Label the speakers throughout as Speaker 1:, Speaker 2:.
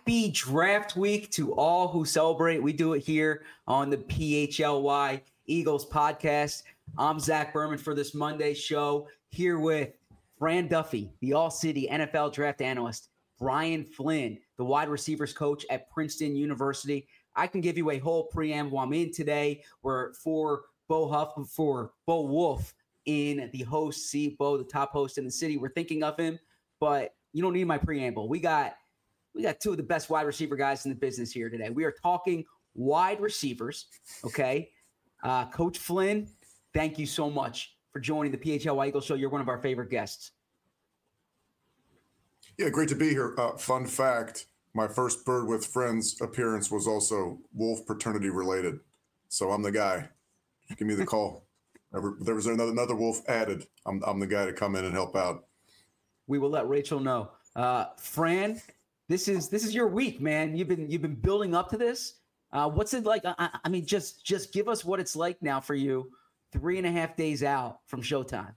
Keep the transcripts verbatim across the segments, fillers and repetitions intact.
Speaker 1: Happy draft week to all who celebrate. We do it here on the P H L Y Eagles podcast. I'm Zach Berman for this Monday show, here with Fran Duffy, the All-City N F L draft analyst, Brian Flynn, the wide receivers coach at Princeton University. I can give you a whole preamble. I'm in today. We're for Bo Huff, for Bo Wolf in the host seat. Bo, the top host in the city. We're thinking of him, but you don't need my preamble. We got we got two of the best wide receiver guys in the business here today. We are talking wide receivers, okay? Uh, Coach Flynn, thank you so much for joining the P H L Y Eagles show. You're one of our favorite guests.
Speaker 2: Yeah, great to be here. Uh, fun fact, my first Bird with Friends appearance was also Wolf paternity related. So I'm the guy. Give me the call. There was another, another Wolf added. I'm, I'm the guy to come in and help out.
Speaker 1: We will let Rachel know. Uh, Fran, this is this is your week, man. You've been you've been building up to this. Uh, what's it like? I, I mean, just just give us what it's like now for you, three and a half days out from showtime.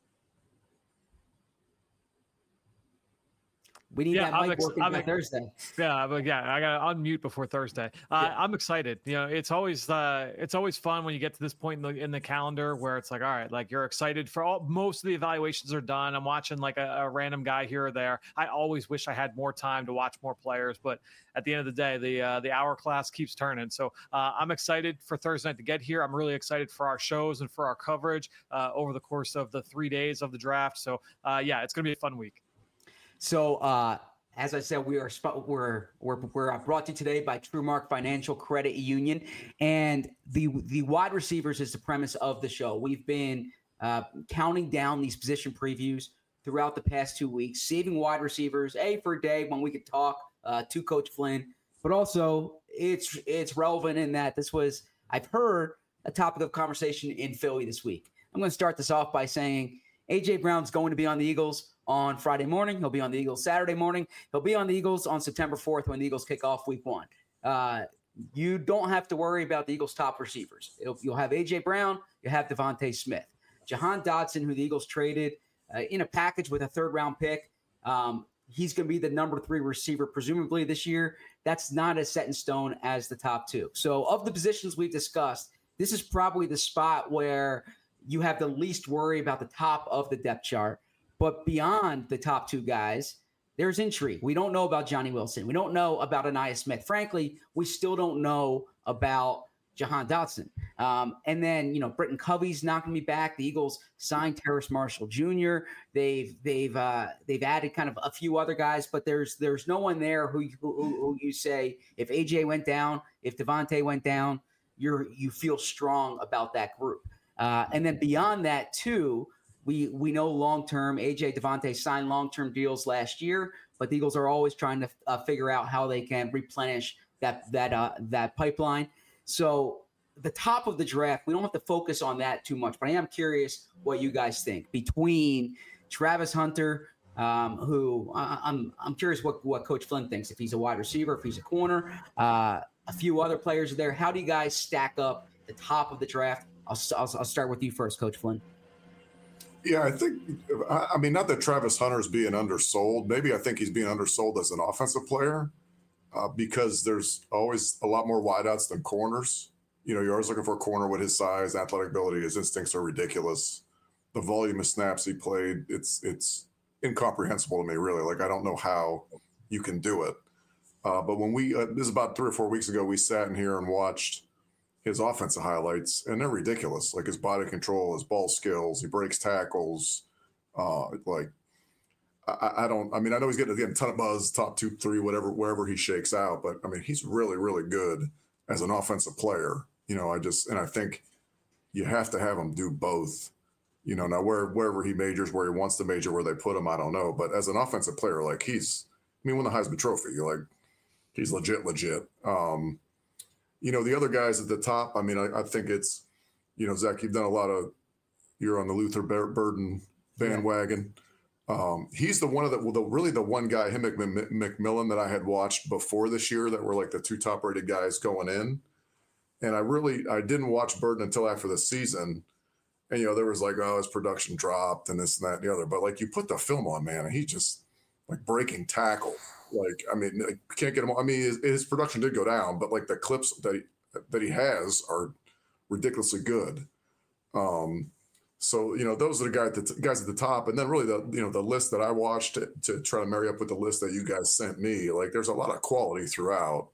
Speaker 1: We need
Speaker 3: yeah,
Speaker 1: that mic
Speaker 3: ex-
Speaker 1: working
Speaker 3: I'm
Speaker 1: by
Speaker 3: ex-
Speaker 1: Thursday.
Speaker 3: Yeah, but yeah, I got to unmute before Thursday. Uh, yeah. I'm excited. You know, it's always uh, it's always fun when you get to this point in the in the calendar where it's like, all right, like you're excited for all. Most of the evaluations are done. I'm watching like a, a random guy here or there. I always wish I had more time to watch more players, but at the end of the day, the uh, the hourglass keeps turning. So uh, I'm excited for Thursday night to get here. I'm really excited for our shows and for our coverage uh, over the course of the three days of the draft. So uh, yeah, it's gonna be a fun week.
Speaker 1: So, uh, as I said, we are we're we're we're brought to you today by TrueMark Financial Credit Union, and the the wide receivers is the premise of the show. We've been uh, counting down these position previews throughout the past two weeks, saving wide receivers a for a day when we could talk uh, to Coach Flynn, but also it's it's relevant in that this was, I've heard, a topic of conversation in Philly this week. I'm going to start this off by saying A J Brown's going to be on the Eagles on Friday morning. He'll be on the Eagles Saturday morning. He'll be on the Eagles on September fourth when the Eagles kick off week one. Uh, you don't have to worry about the Eagles' top receivers. It'll, you'll have A J Brown. You'll have Devontae Smith. Jahan Dotson, who the Eagles traded uh, in a package with a third-round pick, um, he's going to be the number three receiver presumably this year. That's not as set in stone as the top two. So of the positions we've discussed, this is probably the spot where you have the least worry about the top of the depth chart. But beyond the top two guys, there's intrigue. We don't know about Johnny Wilson. We don't know about Ainias Smith. Frankly, we still don't know about Jahan Dotson. Um, and then, you know, Britton Covey's not going to be back. The Eagles signed Terrace Marshall Junior They've they've uh, they've added kind of a few other guys, but there's there's no one there who, who, who you say if A J went down, if Devontae went down, you're you feel strong about that group. Uh, and then beyond that, too. We we know long-term, A J, Devontae signed long-term deals last year, but the Eagles are always trying to uh, figure out how they can replenish that that uh, that pipeline. So the top of the draft, we don't have to focus on that too much, but I am curious what you guys think. Between Travis Hunter, um, who uh, I'm I'm curious what, what Coach Flynn thinks, if he's a wide receiver, if he's a corner, uh, a few other players there. How do you guys stack up the top of the draft? I'll, I'll, I'll start with you first, Coach Flynn.
Speaker 2: Yeah, I think, I mean, not that Travis Hunter's being undersold. Maybe I think he's being undersold as an offensive player uh, because there's always a lot more wideouts than corners. You know, you're always looking for a corner with his size, athletic ability. His instincts are ridiculous. The volume of snaps he played, it's it's incomprehensible to me, really. Like, I don't know how you can do it. Uh, but when we, uh, this is about three or four weeks ago, we sat in here and watched his offensive highlights, and they're ridiculous. Like his body control, his ball skills, he breaks tackles. Uh, like, I, I don't, I mean, I know he's getting, getting a ton of buzz, top two, three, whatever, wherever he shakes out. But I mean, he's really, really good as an offensive player. You know, I just, and I think you have to have him do both. You know, now where, wherever he majors, where he wants to major, where they put him, I don't know. But as an offensive player, like he's, I mean, won the Heisman Trophy. You're like, he's legit, legit. Um, You know, the other guys at the top, I mean, I, I think it's, you know, Zach, you've done a lot of, you're on the Luther Burden bandwagon. Yeah. Um, he's the one of the, well, the really the one guy, him and McMillan, that I had watched before this year that were like the two top rated guys going in. And I really, I didn't watch Burden until after the season. And, you know, there was like, oh, his production dropped and this and that and the other. But like you put the film on, man, and he just, like breaking tackle. Like, I mean, like, can't get him. I mean, his, his production did go down, but like the clips that he, that he has are ridiculously good. Um, so you know, those are the guys, the guys at the top, and then really the you know the list that I watched to, to try to marry up with the list that you guys sent me. Like, there's a lot of quality throughout.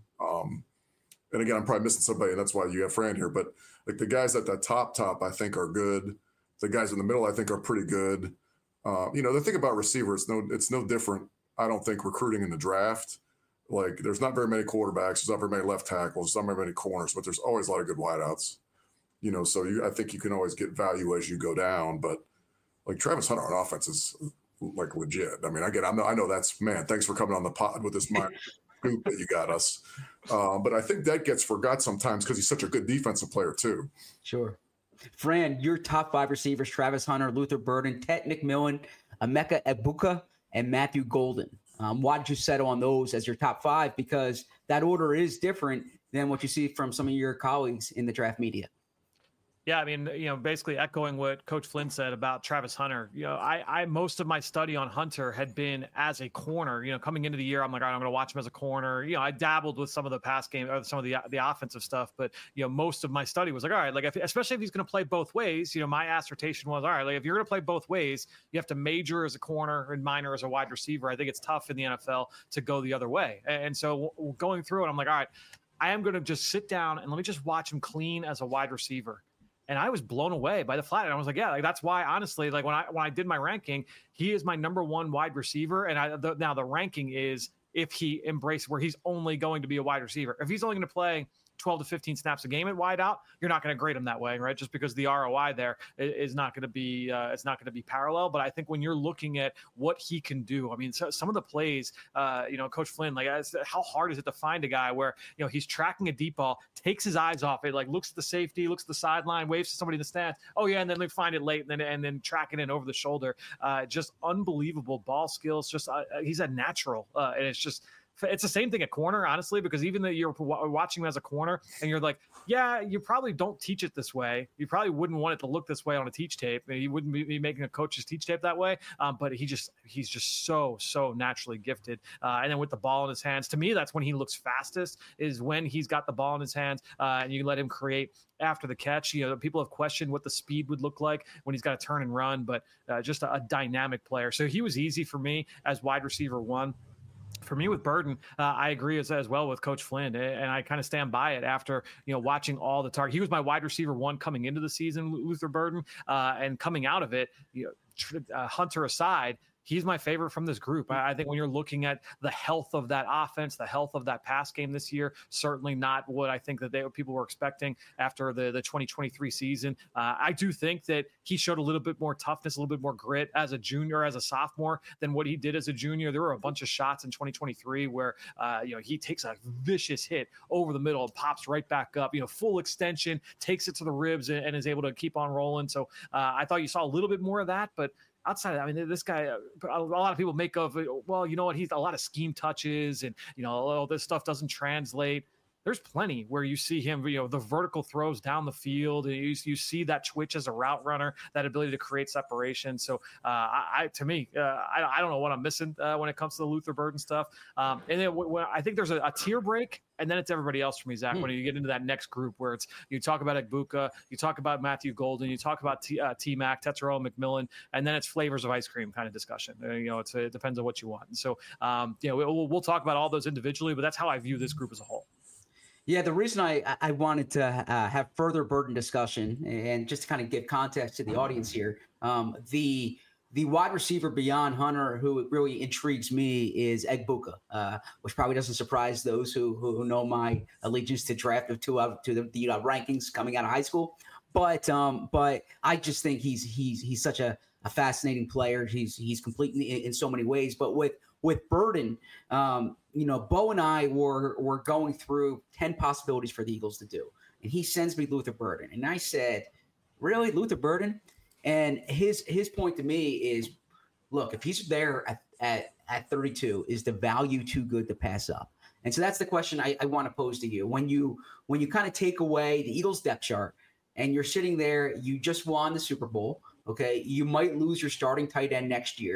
Speaker 2: Um, and again, I'm probably missing somebody, and that's why you have Fran here. But like the guys at the top, top, I think are good. The guys in the middle, I think, are pretty good. Uh, you know, the thing about receivers, no, it's no different. I don't think recruiting in the draft, like there's not very many quarterbacks, there's not very many left tackles, there's not very many corners, but there's always a lot of good wideouts. You know, so you, I think you can always get value as you go down. But like Travis Hunter on offense is like legit. I mean, I get, I'm, I know that's man. Thanks for coming on the pod with this mind scoop that you got us. Uh, but I think that gets forgot sometimes because he's such a good defensive player too.
Speaker 1: Sure. Fran, your top five receivers: Travis Hunter, Luther Burden, Ted McMillan, Emeka Egbuka, and Matthew Golden. Um, why did you settle on those as your top five? Because that order is different than what you see from some of your colleagues in the draft media.
Speaker 3: Yeah, I mean, you know, basically echoing what Coach Flynn said about Travis Hunter. You know, I, I most of my study on Hunter had been as a corner. You know, coming into the year, I'm like, all right, I'm going to watch him as a corner. You know, I dabbled with some of the pass game or some of the the offensive stuff, but you know, most of my study was like, all right, like if, especially if he's going to play both ways. You know, my assertion was, all right, like if you're going to play both ways, you have to major as a corner and minor as a wide receiver. I think it's tough in the N F L to go the other way. And so going through it, I'm like, all right, I am going to just sit down and let me just watch him clean as a wide receiver. And I was blown away by the flat. And I was like, yeah, like that's why, honestly, like when I when I did my ranking, he is my number one wide receiver. And I the, now the ranking is if he embraces where he's only going to be a wide receiver. If he's only going to play twelve to fifteen snaps a game at wide out, you're not going to grade him that way, right? Just because the R O I there is not going to be, uh, it's not going to be parallel. But I think when you're looking at what he can do, I mean, so, some of the plays, uh, you know, Coach Flynn, like how hard is it to find a guy where, you know, he's tracking a deep ball, takes his eyes off it, like looks at the safety, looks at the sideline, waves to somebody in the stands. Oh yeah. And then they find it late and then, and then tracking it over the shoulder. Uh, just unbelievable ball skills. Just, uh, he's a natural. Uh, and it's just, it's the same thing at corner, honestly, because even though you're watching him as a corner and you're like, yeah, you probably don't teach it this way. You probably wouldn't want it to look this way on a teach tape. He wouldn't be making a coach's teach tape that way. Um, but he just, he's just so, so naturally gifted. Uh, and then with the ball in his hands, to me, that's when he looks fastest is when he's got the ball in his hands uh, and you let him create after the catch. You know, people have questioned what the speed would look like when he's got to turn and run, but uh, just a, a dynamic player. So he was easy for me as wide receiver one. For me with Burden, uh, I agree as, as well with Coach Flynn, and I kind of stand by it after, you know, watching all the targets. He was my wide receiver one coming into the season, Luther Burden, uh, and coming out of it, you know, uh, Hunter aside, he's my favorite from this group. I, I think when you're looking at the health of that offense, the health of that pass game this year, certainly not what I think that they people were expecting after the, the twenty twenty-three season. Uh, I do think that he showed a little bit more toughness, a little bit more grit as a junior, as a sophomore than what he did as a junior. There were a bunch of shots in twenty twenty-three where, uh, you know, he takes a vicious hit over the middle and pops right back up, you know, full extension, takes it to the ribs and, and is able to keep on rolling. So uh, I thought you saw a little bit more of that, but outside of that, I mean, this guy, a lot of people make of, well, you know what, he's a lot of scheme touches and, you know, oh, this stuff doesn't translate. There's plenty where you see him, you know, the vertical throws down the field, and you, you see that twitch as a route runner, that ability to create separation. So, uh, I, I to me, uh, I, I don't know what I'm missing uh, when it comes to the Luther Burden stuff. Um, and then when I think there's a, a tier break, and then it's everybody else for me, Zach. Mm. When you get into that next group where it's you talk about Egbuka, you talk about Matthew Golden, you talk about T, uh, T-Mac, Tetsuo McMillan, and then it's flavors of ice cream kind of discussion. Uh, you know, it's, it depends on what you want. And so, um, you know, we'll, we'll talk about all those individually, but that's how I view this group as a whole.
Speaker 1: Yeah, the reason I, I wanted to uh, have further Burden discussion and just to kind of give context to the audience here, um, the the wide receiver beyond Hunter who really intrigues me is Egbuka, uh, which probably doesn't surprise those who who know my allegiance to draft of two out to the, the uh, rankings coming out of high school. But um, but I just think he's he's he's such a, a fascinating player. He's he's complete in, in so many ways. But with with Burden, um, you know, Bo and I were were going through ten possibilities for the Eagles to do, and he sends me Luther Burden, and I said, "Really, Luther Burden?" And his his point to me is, look, if he's there at at, at thirty-two, is the value too good to pass up? And so that's the question I, I want to pose to you. When you when you kind of take away the Eagles depth chart, and you're sitting there, you just won the Super Bowl. Okay, you might lose your starting tight end next year.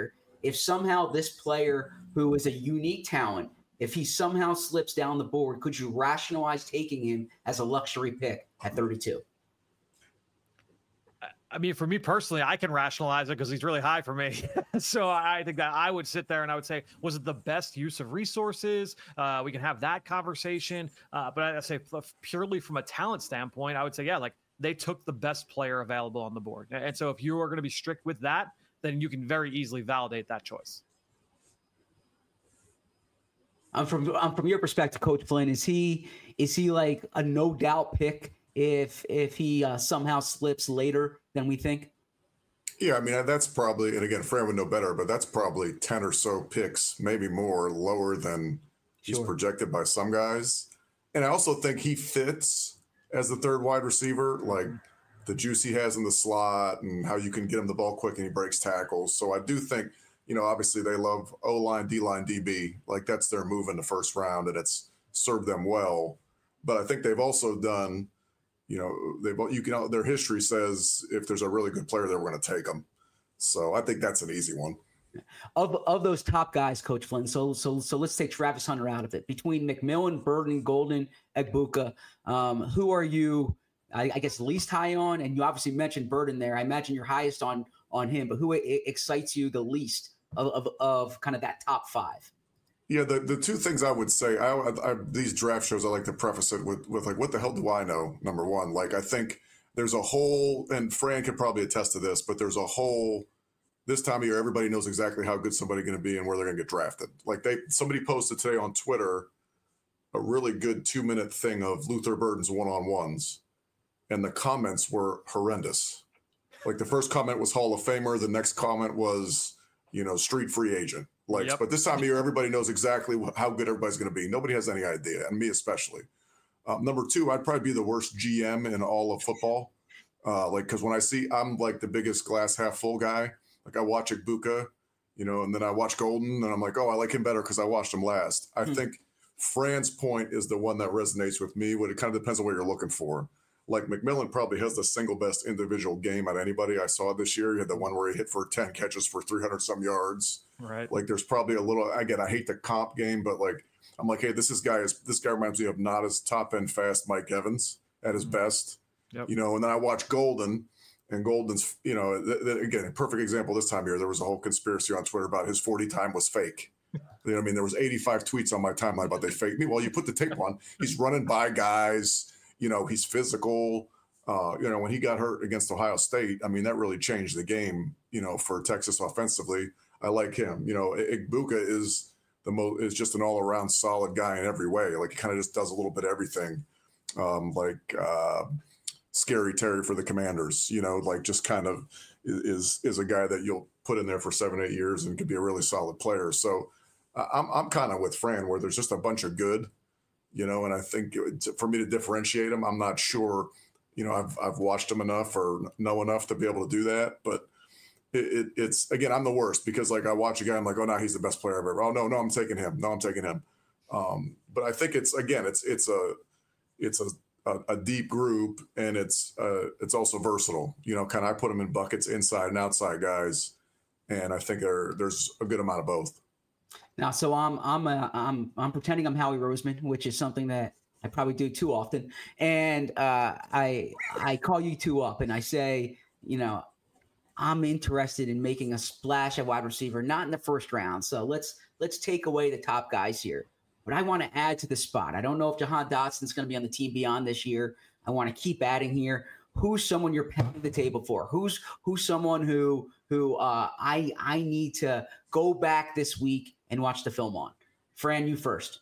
Speaker 1: if somehow this player who is a unique talent, if he somehow slips down the board, could you rationalize taking him as a luxury pick at thirty-two?
Speaker 3: I mean, for me personally, I can rationalize it because he's really high for me. So I think that I would sit there and I would say, was it the best use of resources? Uh, we can have that conversation. Uh, but I say purely from a talent standpoint, I would say, yeah, like they took the best player available on the board. And so if you are going to be strict with that, then you can very easily validate that choice.
Speaker 1: I'm from I'm from your perspective, Coach Flynn. Is he is he like a no doubt pick if if he uh, somehow slips later than we think?
Speaker 2: Yeah, I mean that's probably, and again, Fran would know better, but that's probably ten or so picks, maybe more, lower than he's
Speaker 1: Sure.
Speaker 2: projected by some guys. And I also think he fits as the third wide receiver, like the juice he has in the slot and how you can get him the ball quick and he breaks tackles. So I do think, you know, obviously they love O-line, D-line, D B. Like that's their move in the first round, and it's served them well. But I think they've also done, you know, they've you can their history says if there's a really good player there, we're going to take them. So I think that's an easy one.
Speaker 1: Of of those top guys, Coach Flynn. So so so let's take Travis Hunter out of it. Between McMillan, Burden, Golden, Egbuka, um, who are you? I, I guess least high on, and you obviously mentioned Burden there. I imagine you're highest on on him, but who I- excites you the least of, of of kind of that top five?
Speaker 2: Yeah, the, the two things I would say, I, I, I these draft shows, I like to preface it with with like, what the hell do I know? Number one, like I think there's a whole, and Fran could probably attest to this, but there's a whole. This time of year, everybody knows exactly how good somebody's going to be and where they're going to get drafted. Like they, somebody posted today on Twitter a really good two minute thing of Luther Burden's one on ones, and the comments were horrendous. Like the first comment was Hall of Famer, the next comment was, you know, street free agent. Like, yep. But this time of year, everybody knows exactly how good everybody's going to be. Nobody has any idea, and me especially. Um, number two, I'd probably be the worst G M in all of football. Uh, like, because when I see, I'm like the biggest glass half full guy. Like I watch Egbuka, you know, and then I watch Golden, and I'm like, oh, I like him better because I watched him last. I hmm. think Fran's point is the one that resonates with me. But it kind of depends on what you're looking for. Like McMillan probably has the single best individual game out of anybody I saw this year. He had the one where he hit for ten catches for three hundred some yards.
Speaker 3: Right.
Speaker 2: Like there's probably a little, again, I hate the comp game, but like, I'm like, hey, this is guy is, this guy reminds me of not as top end fast Mike Evans at his mm-hmm. best, yep. you know, and then I watch Golden. And Golden's, you know, th- th- again, a perfect example this time of year. There was a whole conspiracy on Twitter about his forty time was fake. You know what I mean? There was eighty-five tweets on my timeline about they fake me. Well, you put the tape on. He's running by guys. You know, he's physical. Uh, you know, when he got hurt against Ohio State, I mean, that really changed the game, you know, for Texas offensively. I like him. You know, Egbuka is the most is just an all-around solid guy in every way. Like he kind of just does a little bit of everything. Um, like uh Scary Terry for the Commanders, you know, like just kind of is is a guy that you'll put in there for seven, eight years and could be a really solid player. So uh, I'm I'm kind of with Fran where there's just a bunch of good, you know, and I think it, for me to differentiate them, I'm not sure, you know, I've I've watched them enough or know enough to be able to do that. But it, it, it's, again, I'm the worst because like I watch a guy, I'm like, oh, no, he's the best player I've ever. Oh, no, no, I'm taking him. No, I'm taking him. Um, but I think it's, again, it's it's a it's a A, a deep group, and it's uh, it's also versatile. You know, kind of I put them in buckets, inside and outside guys, and I think there there's a good amount of both.
Speaker 1: Now, so I'm I'm a, I'm I'm pretending I'm Howie Roseman, which is something that I probably do too often, and uh, I I call you two up and I say, you know, I'm interested in making a splash at wide receiver, not in the first round. So let's let's take away the top guys here. But I want to add to the spot. I don't know if Jahan Dotson's going to be on the team beyond this year. I want to keep adding here. Who's someone you're pounding the table for? Who's who's someone who who uh, I I need to go back this week and watch the film on? Fran, you first.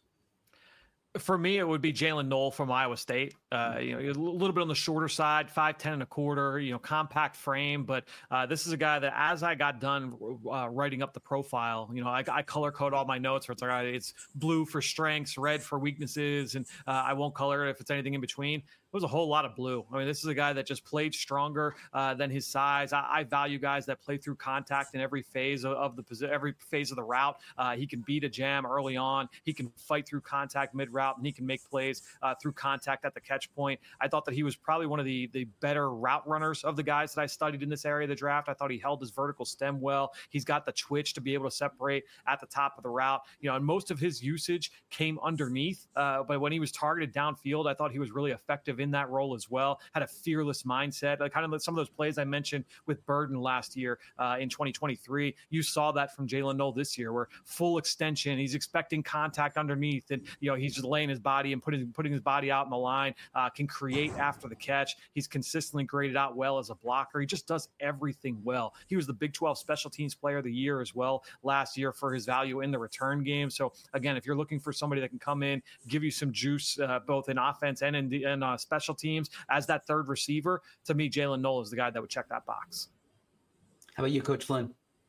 Speaker 3: For me, it would be Jalen Knoll from Iowa State. Uh, you know, a little bit on the shorter side, five ten and a quarter, you know, compact frame. But uh, this is a guy that as I got done uh, writing up the profile, you know, I, I color code all my notes where it's like, it's blue for strengths, red for weaknesses, and uh, I won't color it if it's anything in between. There was a whole lot of blue. I mean, this is a guy that just played stronger uh, than his size. I, I value guys that play through contact in every phase of, of the every phase of the route. Uh, he can beat a jam early on. He can fight through contact mid route, and he can make plays uh, through contact at the catch catch point. I thought that he was probably one of the, the better route runners of the guys that I studied in this area of the draft. I thought he held his vertical stem well. He's got the twitch to be able to separate at the top of the route. You know, and most of his usage came underneath, uh, but when he was targeted downfield, I thought he was really effective in that role as well. Had a fearless mindset, like kind of some of those plays I mentioned with Burden last year uh, in twenty twenty-three. You saw that from Jalen Noel this year, where full extension, he's expecting contact underneath, and you know he's just laying his body and putting putting his body out in the line. Uh, can create after the catch. He's consistently graded out well as a blocker. He just does everything well. He was the Big twelve Special Teams Player of the Year as well last year for his value in the return game. So again, if you're looking for somebody that can come in, give you some juice uh, both in offense and in, the, in uh, special teams as that third receiver, to me, Jalen Noel is the guy that would check that box.
Speaker 1: How about you, Coach Flynn?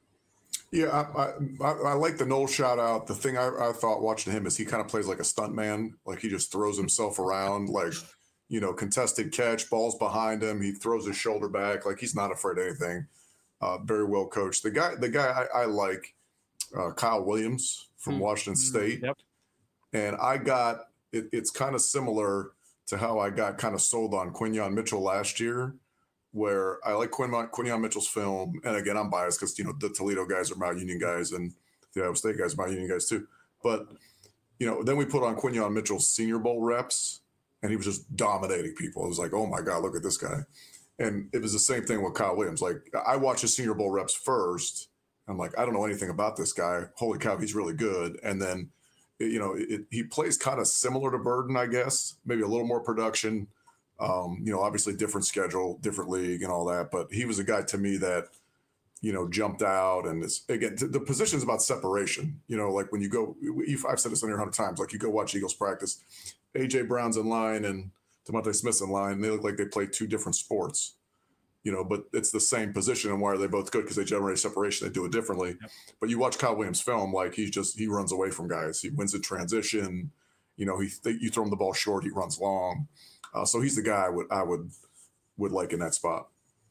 Speaker 2: Yeah, I, I, I like the Noel shout out. The thing I, I thought watching him is he kind of plays like a stunt man. Like he just throws himself around, like, you know, contested catch, balls behind him. He throws his shoulder back. Like he's not afraid of anything. Uh, very well coached. The guy, the guy I, I like, uh, Kyle Williams from mm-hmm. Washington State.
Speaker 3: Yep.
Speaker 2: And I got, it, it's kind of similar to how I got kind of sold on Quinyon Mitchell last year, where I like Quin, Quinyon Mitchell's film. And again, I'm biased because, you know, the Toledo guys are Mount Union guys and the Iowa State guys are Mount Union guys too. But, you know, then we put on Quinyon Mitchell's Senior Bowl reps and he was just dominating people. It was like, oh my God, look at this guy. And it was the same thing with Kyle Williams. Like I watched his Senior Bowl reps first. I'm like, I don't know anything about this guy. Holy cow, he's really good. And then, you know, it, he plays kind of similar to Burden, I guess, maybe a little more production. Um, you know, obviously different schedule, different league and all that. But he was a guy to me that, you know, jumped out. And it's, again, the position is about separation. You know, like when you go, I've said this on here a hundred times, like you go watch Eagles practice, A J Brown's in line and DeMonte Smith's in line. And they look like they play two different sports. You know, but it's the same position. And why are they both good? Because they generate separation. They do it differently. Yep. But you watch Kyle Williams' film, like he's just, he runs away from guys. He wins in transition. You know, he you throw him the ball short, he runs long. Uh, so he's the guy I would, I would, would like in that spot.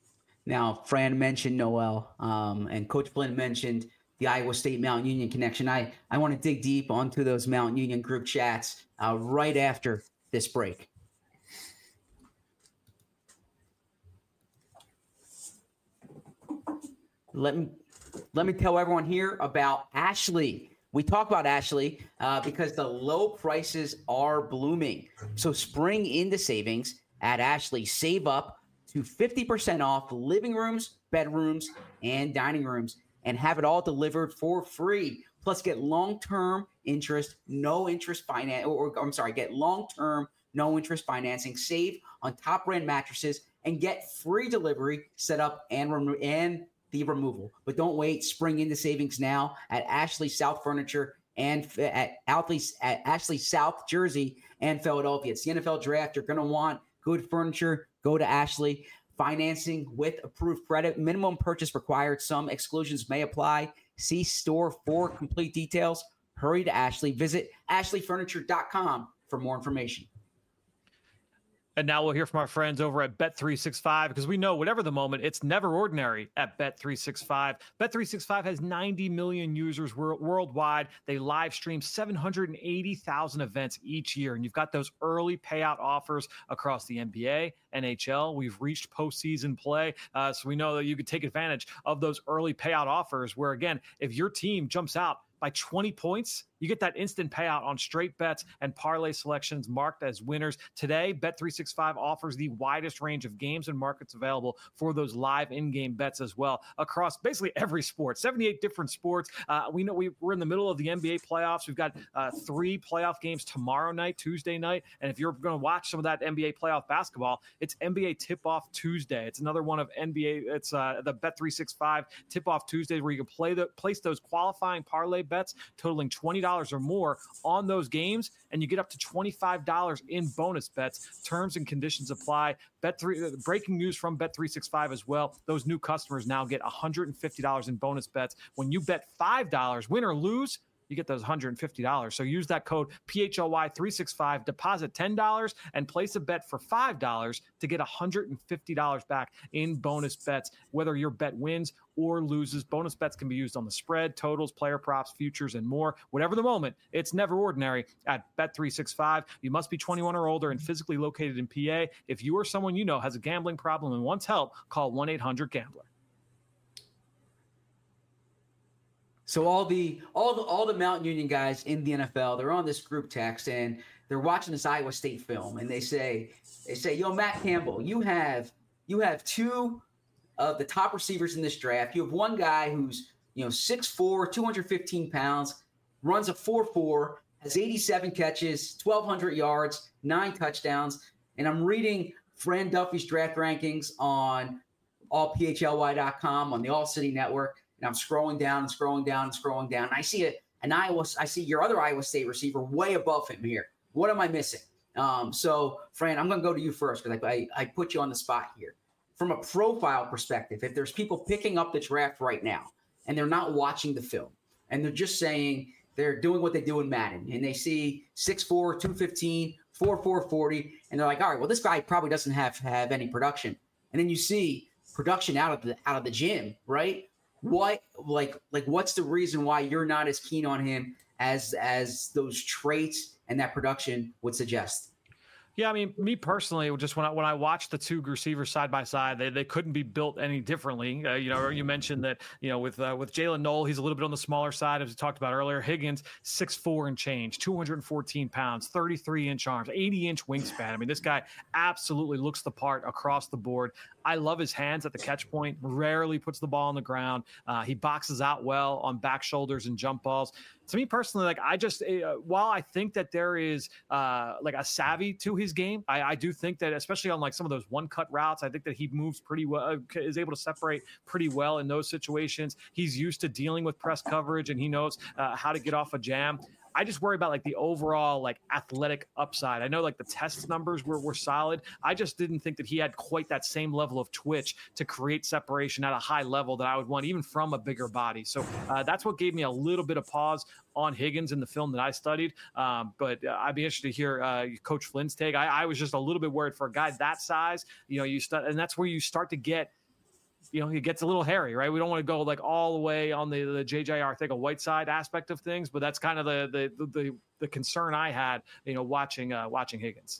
Speaker 1: Now, Fran mentioned Noel, um, and Coach Flynn mentioned the Iowa State Mount Union connection. I, I want to dig deep onto those Mount Union group chats uh, right after this break. Let me let me tell everyone here about Ashley. We talk about Ashley uh, because the low prices are blooming. So spring into savings at Ashley. Save up to fifty percent off living rooms, bedrooms, and dining rooms, and have it all delivered for free. Plus, get long-term interest, no interest finance, or, or I'm sorry, get long-term, no interest financing. Save on top-brand mattresses and get free delivery, set up, and remo- and the removal. But don't wait. Spring into savings now at Ashley South Furniture and at Ashley, at Ashley South Jersey and Philadelphia. It's the N F L draft. You're going to want good furniture. Go to Ashley. Financing with approved credit. Minimum purchase required. Some exclusions may apply. See store for complete details. Hurry to Ashley. Visit ashley furniture dot com for more information.
Speaker 3: And now we'll hear from our friends over at Bet three sixty-five, because we know whatever the moment, it's never ordinary at Bet three sixty-five. Bet three sixty-five has ninety million users wor- worldwide. They live stream seven hundred eighty thousand events each year. And you've got those early payout offers across the N B A, N H L. We've reached postseason play. Uh, so we know that you could take advantage of those early payout offers where, again, if your team jumps out by twenty points, you get that instant payout on straight bets and parlay selections marked as winners. Today, Bet three sixty-five offers the widest range of games and markets available for those live in-game bets as well across basically every sport, seventy-eight different sports. Uh, we know we, we're in the middle of the N B A playoffs. We've got uh, three playoff games tomorrow night, Tuesday night. And if you're going to watch some of that N B A playoff basketball, it's N B A Tip-Off Tuesday. It's another one of N B A. It's uh, the Bet three sixty-five Tip-Off Tuesdays where you can play the place those qualifying parlay bets totaling twenty dollars or more on those games, and you get up to twenty-five dollars in bonus bets. Terms and conditions apply. Bet three, breaking news from Bet three sixty-five as well. Those new customers now get one hundred fifty dollars in bonus bets. When you bet five dollars, win or lose, you get those one hundred fifty dollars. So use that code P H L Y three sixty-five, deposit ten dollars, and place a bet for five dollars to get one hundred fifty dollars back in bonus bets, whether your bet wins or loses. Bonus bets can be used on the spread, totals, player props, futures, and more. Whatever the moment, it's never ordinary at Bet three sixty-five. You must be twenty-one or older and physically located in P A. If you or someone you know has a gambling problem and wants help, call one eight hundred gambler.
Speaker 1: So all the all the all the Mount Union guys in the N F L, they're on this group text and they're watching this Iowa State film, and they say they say, "Yo, Matt Campbell, you have you have two of the top receivers in this draft. You have one guy who's, you know, six foot four, two hundred fifteen pounds, runs a four four, has eighty-seven catches, twelve hundred yards, nine touchdowns." And I'm reading Fran Duffy's draft rankings on all P H L Y dot com on the All City Network. And I'm scrolling down and scrolling down and scrolling down. And I see a, an Iowa, I see your other Iowa State receiver way above him here. What am I missing? Um, so, Fran, I'm going to go to you first because I, I, I put you on the spot here. From a profile perspective, if there's people picking up the draft right now and they're not watching the film and they're just saying they're doing what they do in Madden and they see six foot four, two fifteen, four four forty, and they're like, all right, well, this guy probably doesn't have have any production. And then you see production out of the out of the gym, right? What like like what's the reason why you're not as keen on him as as those traits and that production would suggest?
Speaker 3: Yeah, I mean, me personally, just when I when I watched the two receivers side by side, they, they couldn't be built any differently. Uh, you know, you mentioned that, you know, with uh, with Jalen Noel, he's a little bit on the smaller side, as we talked about earlier. Higgins, six foot four and change, two hundred fourteen pounds, thirty-three inch arms, eighty inch wingspan. I mean, this guy absolutely looks the part across the board. I love his hands at the catch point, rarely puts the ball on the ground. Uh, he boxes out well on back shoulders and jump balls. To me personally, like I just, uh, while I think that there is uh, like a savvy to his game, I, I do think that especially on like some of those one cut routes, I think that he moves pretty well, uh, is able to separate pretty well in those situations. He's used to dealing with press coverage and he knows uh, how to get off a jam. I just worry about like the overall like athletic upside. I know like the test numbers were, were solid. I just didn't think that he had quite that same level of twitch to create separation at a high level that I would want even from a bigger body. So uh, that's what gave me a little bit of pause on Higgins in the film that I studied. Um, but uh, I'd be interested to hear uh, Coach Flynn's take. I, I was just a little bit worried for a guy that size, you know, you start, and that's where you start to get, you know, it gets a little hairy, right? We don't want to go like all the way on the, the J J Arcega-Whiteside aspect of things, but that's kind of the, the, the, the concern I had, you know, watching, uh, watching Higgins.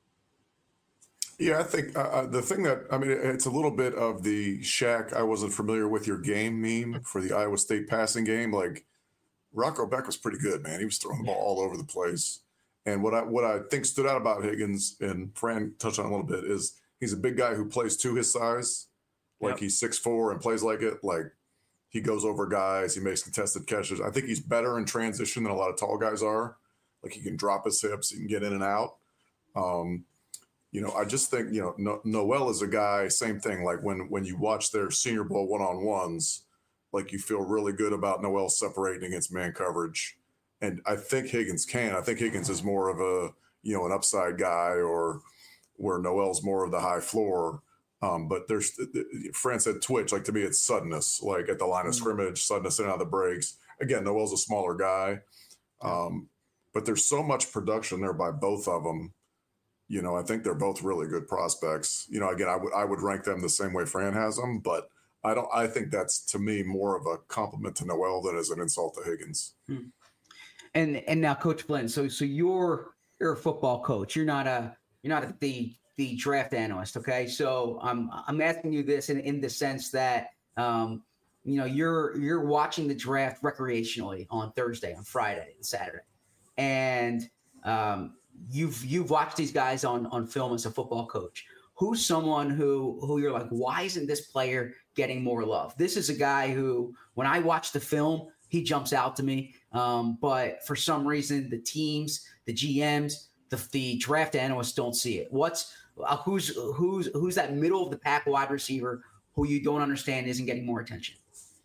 Speaker 2: Yeah, I think uh, the thing that, I mean, it's a little bit of the Shaq, I wasn't familiar with your game meme for the Iowa State passing game. Like Rocco Beck was pretty good, man. He was throwing the ball all over the place. And what I, what I think stood out about Higgins, and Fran touched on a little bit, is he's a big guy who plays to his size. Like yep. He's six foot four and plays like it. Like he goes over guys. He makes contested catches. I think he's better in transition than a lot of tall guys are. Like he can drop his hips. He can get in and out. Um, you know, I just think, you know, no- Noel is a guy, same thing. Like when, when you watch their Senior Bowl one-on-ones, like you feel really good about Noel separating against man coverage. And I think Higgins can. I think Higgins is more of a, you know, an upside guy, or where Noel's more of the high floor. Um, but there's, Fran said twitch, like to me, it's suddenness, like at the line of scrimmage, suddenness in and out of the breaks. Again, Noel's a smaller guy. Um, but there's so much production there by both of them. You know, I think they're both really good prospects. You know, again, I would, I would rank them the same way Fran has them, but I don't, I think that's to me more of a compliment to Noel than as an insult to Higgins.
Speaker 1: Hmm. And, and now Coach Flynn, so, so you're, you're a football coach. You're not a, you're not a, the, the draft analyst. Okay. So I'm, I'm asking you this in, in the sense that, um, you know, you're, you're watching the draft recreationally on Thursday, on Friday and Saturday. And, um, you've, you've watched these guys on, on film as a football coach. Who's someone who, who you're like, why isn't this player getting more love? This is a guy who, when I watch the film, he jumps out to me. Um, but for some reason, the teams, the G Ms, the, the draft analysts don't see it. What's, Uh, who's who's who's that middle of the pack wide receiver who you don't understand isn't getting more attention?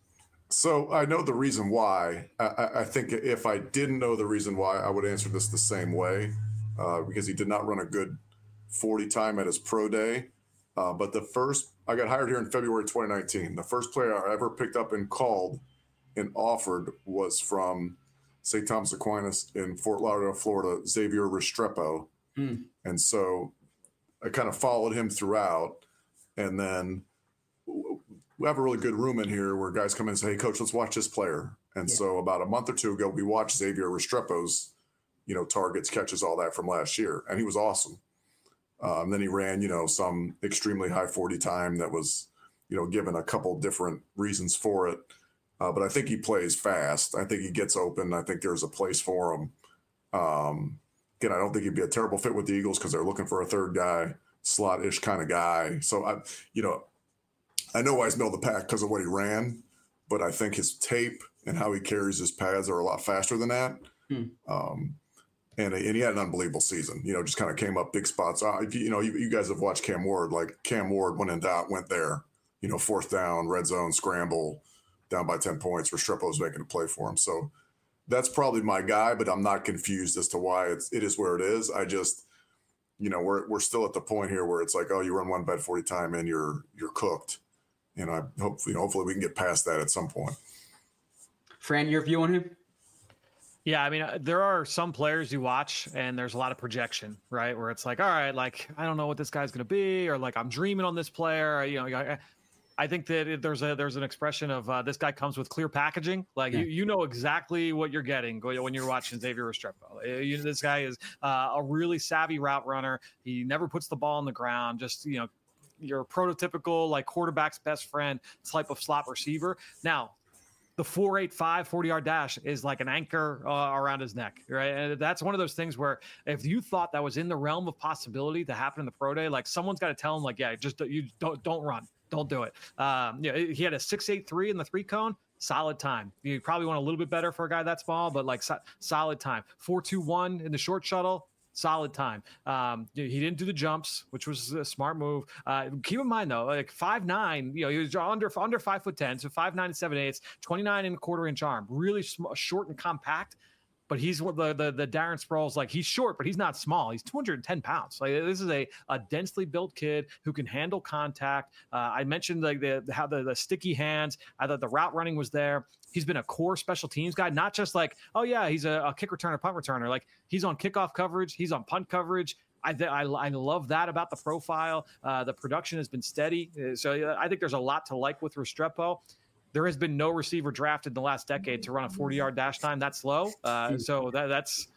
Speaker 2: So I know the reason why. I, I think if I didn't know the reason why, I would answer this the same way, uh, because he did not run a good forty time at his pro day. Uh, but the first, I got hired here in February twenty nineteen. The first player I ever picked up and called and offered was from Saint Thomas Aquinas, in Fort Lauderdale, Florida, Xavier Restrepo. Mm. And so I kind of followed him throughout. And then we have a really good room in here where guys come in and say, hey, coach, let's watch this player. And yeah. so about a month or two ago, we watched Xavier Restrepo's, you know, targets, catches, all that from last year. And he was awesome. Um, then he ran, you know, some extremely high forty time that was, you know, given a couple different reasons for it. Uh, but I think he plays fast. I think he gets open. I think there's a place for him. Um, again, I don't think he'd be a terrible fit with the Eagles because they're looking for a third guy, slot-ish kind of guy. So, I, you know, I know why he's middle of the pack because of what he ran, but I think his tape and how he carries his pads are a lot faster than that. Hmm. Um, and, and he had an unbelievable season, you know, just kind of came up big spots. Uh, you know, you, you guys have watched Cam Ward, like Cam Ward went in doubt, went there, you know, fourth down, red zone, scramble, down by ten points. Restrepo's making a play for him. So that's probably my guy, but I'm not confused as to why it's, it is where it is. I just, you know, we're, we're still at the point here where it's like, oh, you run one bad forty time and you're, you're cooked. And I hope, you know, hopefully we can get past that at some point.
Speaker 1: Fran, your view on him?
Speaker 3: Yeah, I mean, there are some players you watch and there's a lot of projection, right? Where it's like, all right, like, I don't know what this guy's going to be, or like, I'm dreaming on this player. You know, I, I think that there's a there's an expression of uh, this guy comes with clear packaging. Like, yeah. you, you know exactly what you're getting when you're watching Xavier Restrepo. You, this guy is uh, a really savvy route runner. He never puts the ball on the ground. Just, you know, your prototypical, like, quarterback's best friend type of slot receiver. Now, the four eight five forty-yard dash is like an anchor uh, around his neck, right? And that's one of those things where if you thought that was in the realm of possibility to happen in the pro day, like, someone's got to tell him, like, yeah, just you don't don't run, don't do it. Um, yeah, he had a six eight three in the three cone, solid time. You probably want a little bit better for a guy that small, but like so, solid time. four two one in the short shuttle. Solid time. Um, he didn't do the jumps, which was a smart move. Uh, keep in mind though, like five nine, you know, he was under under five foot ten, so five nine and seven eighths, twenty-nine and a quarter inch arm, really sm- short and compact. But he's the the the Darren Sproles, like, he's short, but he's not small. He's two hundred ten pounds. Like, this is a, a densely built kid who can handle contact. Uh, I mentioned like the how the, the sticky hands. I thought the route running was there. He's been a core special teams guy, not just like, oh yeah, he's a, a kick returner, punt returner. Like, he's on kickoff coverage, he's on punt coverage. I, th- I I love that about the profile. Uh, the production has been steady, so I think there's a lot to like with Restrepo. There has been no receiver drafted in the last decade to run a forty-yard dash time that slow. Uh, so that, that's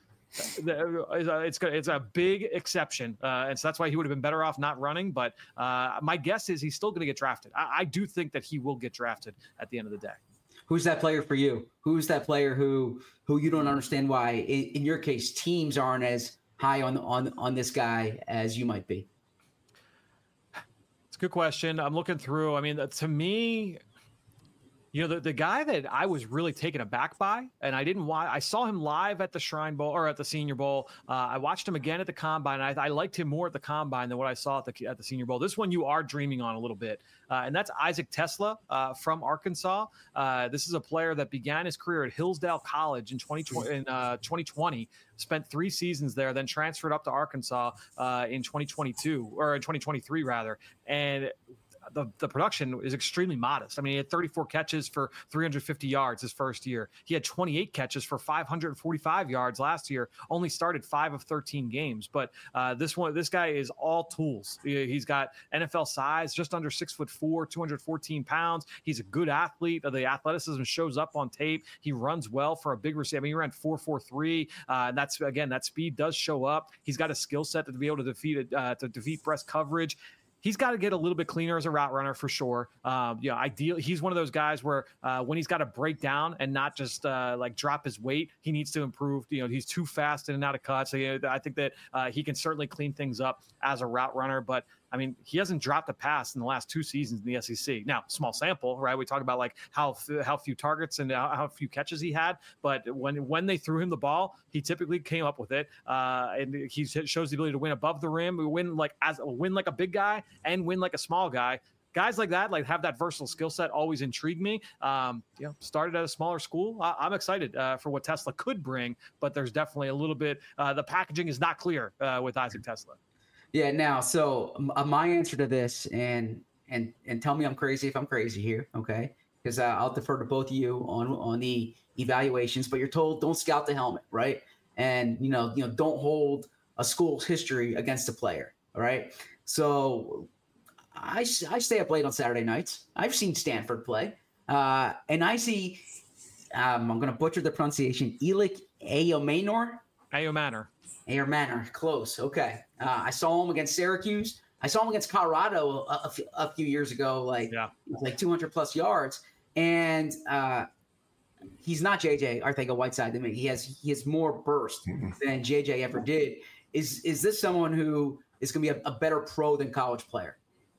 Speaker 3: it's it's a big exception, uh, and so that's why he would have been better off not running. But uh, my guess is he's still going to get drafted. I, I do think that he will get drafted at the end of the day.
Speaker 1: Who's that player for you? Who's that player who who you don't understand why, in, in your case, teams aren't as high on on on this guy as you might be?
Speaker 3: It's a good question. I'm looking through. I mean, to me, you know, the, the guy that I was really taken aback by, and I didn't watch, I saw him live at the Shrine Bowl or at the Senior Bowl. Uh, I watched him again at the Combine. I, I liked him more at the Combine than what I saw at the at the Senior Bowl. This one you are dreaming on a little bit, uh, and that's Isaac Tesla uh, from Arkansas. Uh, this is a player that began his career at Hillsdale College in twenty twenty, in uh, twenty twenty, spent three seasons there, then transferred up to Arkansas uh, in twenty twenty-two or in twenty twenty-three rather, and The, the production is extremely modest. I mean, he had thirty-four catches for three hundred fifty yards his first year. He had twenty-eight catches for five hundred forty-five yards last year. Only started five of thirteen games. But uh, this one, this guy is all tools. He, he's got N F L size, just under six foot four, two hundred fourteen pounds. He's a good athlete. The athleticism shows up on tape. He runs well for a big receiver. I mean, he ran four four three. Uh, that's again, that speed does show up. He's got a skill set to be able to defeat uh, to defeat press coverage. He's got to get a little bit cleaner as a route runner for sure. Um, you know, ideal. He's one of those guys where uh, when he's got to break down and not just uh, like drop his weight, he needs to improve. You know, he's too fast in and out of cuts. So, you know, I think that uh, he can certainly clean things up as a route runner. But I mean, he hasn't dropped a pass in the last two seasons in the S E C. Now, small sample, right? We talk about like how how few targets and how, how few catches he had, but when when they threw him the ball, he typically came up with it, uh, and he shows the ability to win above the rim, win like as win like a big guy, and win like a small guy. Guys like that, like have that versatile skill set, always intrigue me. Um, you know, started at a smaller school. I, I'm excited uh, for what Tesla could bring, but there's definitely a little bit. Uh, the packaging is not clear uh, with Isaac Tesla.
Speaker 1: Yeah. Now, so uh, my answer to this, and and and tell me I'm crazy if I'm crazy here, okay, because uh, I'll defer to both of you on on the evaluations. But you're told don't scout the helmet, right? And you know, you know, don't hold a school's history against a player. All right. So I, I stay up late on Saturday nights. I've seen Stanford play, uh, and I see. Um, I'm going to butcher the pronunciation. Elik Ayomanor.
Speaker 3: Ayomanor.
Speaker 1: Ayomanor. Close. Okay. Uh, I saw him against Syracuse. I saw him against Colorado a, a, few, a few years ago, like yeah. like two hundred plus yards. And uh, he's not J J Arcega-Whiteside to me. He has he has more burst than J J ever did. Is is this someone who is going to be a, a better pro than college player?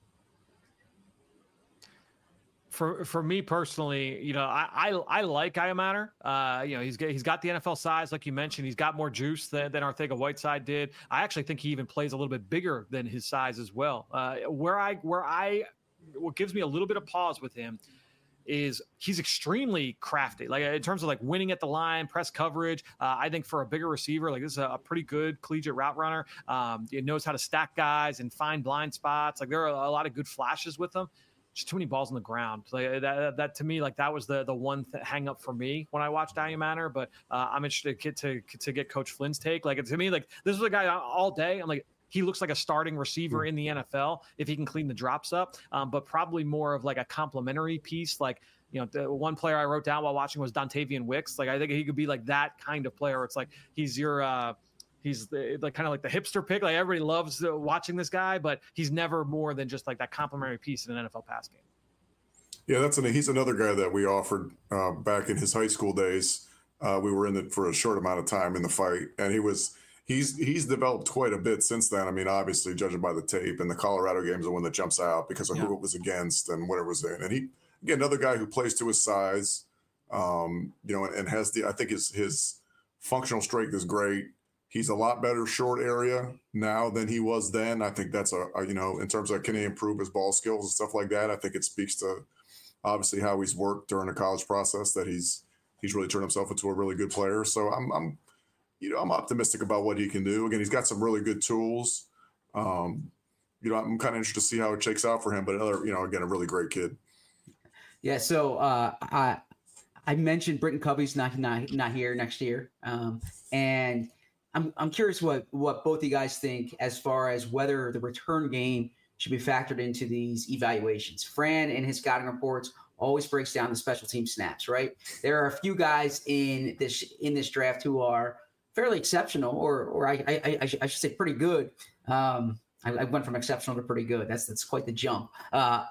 Speaker 3: For for me personally, you know, I I, I like Ayomanor. Uh, you know, he's got, he's got the N F L size, like you mentioned. He's got more juice than, than Arcega-Whiteside did. I actually think he even plays a little bit bigger than his size as well. Uh, where I where I what gives me a little bit of pause with him is he's extremely crafty. Like in terms of like winning at the line, press coverage. Uh, I think for a bigger receiver, like this is a, a pretty good collegiate route runner. Um, he knows how to stack guys and find blind spots. Like there are a lot of good flashes with him. Just too many balls on the ground. Like that, that to me, like that was the the one th- hang up for me when I watched Ayomanor. But uh, I'm interested to get to to get Coach Flynn's take. Like to me, like this was a guy all day. I'm like, he looks like a starting receiver in the N F L if he can clean the drops up. Um, but probably more of like a complementary piece. Like you know, the one player I wrote down while watching was Dontavian Wicks. Like I think he could be like that kind of player. Where it's like he's your. Uh, He's the, like kind of like the hipster pick. Like everybody loves uh, watching this guy, but he's never more than just like that complementary piece in an N F L pass game.
Speaker 2: Yeah, that's an, he's another guy that we offered uh, back in his high school days. Uh, we were in it for a short amount of time in the fight, and he was he's he's developed quite a bit since then. I mean, obviously, judging by the tape, and the Colorado game is the one that jumps out because of yeah. who it was against and what it was in. And he again another guy who plays to his size, um, you know, and, and has the I think his his functional strength is great. He's a lot better short area now than he was then. I think that's a, a you know, in terms of can he improve his ball skills and stuff like that. I think it speaks to obviously how he's worked during the college process that he's he's really turned himself into a really good player. So I'm I'm you know I'm optimistic about what he can do. Again, he's got some really good tools. Um, you know, I'm kind of interested to see how it shakes out for him. But another, you know, again, a really great kid.
Speaker 1: Yeah. So uh, I I mentioned Britton Covey's not not not here next year, um, and. I'm I'm curious what, what both of you guys think as far as whether the return game should be factored into these evaluations. Fran in his scouting reports always breaks down the special team snaps, right? There are a few guys in this in this draft who are fairly exceptional, or or I I, I, should, I should say pretty good. Um, I, I went from exceptional to pretty good. That's that's quite the jump. Uh,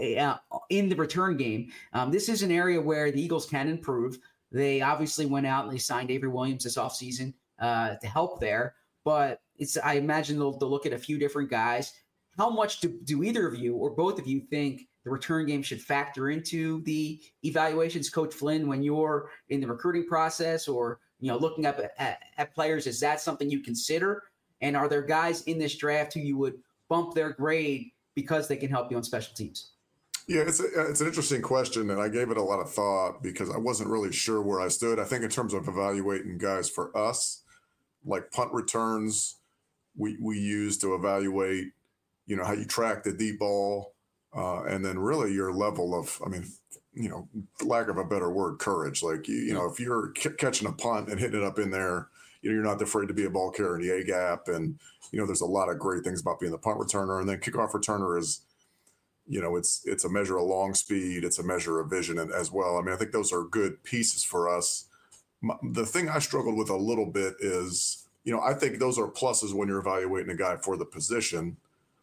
Speaker 1: in the return game, um, this is an area where the Eagles can improve. They obviously went out and they signed Avery Williams this offseason. Uh, to help there, but it's I imagine they'll, they'll look at a few different guys. How much do, do either of you or both of you think the return game should factor into the evaluations, Coach Flynn, when you're in the recruiting process or you know looking up at, at, at players? Is that something you consider? And are there guys in this draft who you would bump their grade because they can help you on special teams?
Speaker 2: Yeah, it's a, it's an interesting question, and I gave it a lot of thought because I wasn't really sure where I stood. I think in terms of evaluating guys for us, like punt returns, we we use to evaluate, you know, how you track the deep ball, uh, and then really your level of, I mean, you know, lack of a better word, courage. Like, you, you know, if you're c- catching a punt and hitting it up in there, you know, you're not afraid to be a ball carrier in the A gap. And, you know, there's a lot of great things about being the punt returner. And then kickoff returner is, you know, it's it's a measure of long speed. It's a measure of vision as well. I mean, I think those are good pieces for us. My, the thing I struggled with a little bit is, you know, I think those are pluses when you're evaluating a guy for the position.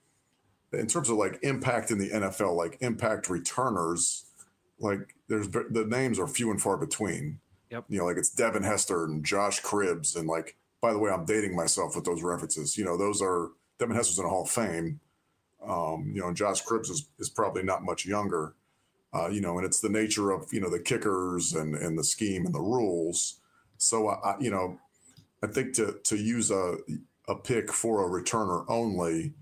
Speaker 2: In terms of like impact in the N F L, like impact returners, like there's the names are few and far between.
Speaker 3: Yep.
Speaker 2: You know, like it's Devin Hester and Josh Cribbs. And like, by the way, I'm dating myself with those references. You know, those are Devin Hester's in the Hall of Fame. Um, you know, and Josh Cribbs is, is probably not much younger. Uh, you know, and it's the nature of, you know, the kickers and, and the scheme and the rules. So, I, you know, I think to to use a a pick for a returner only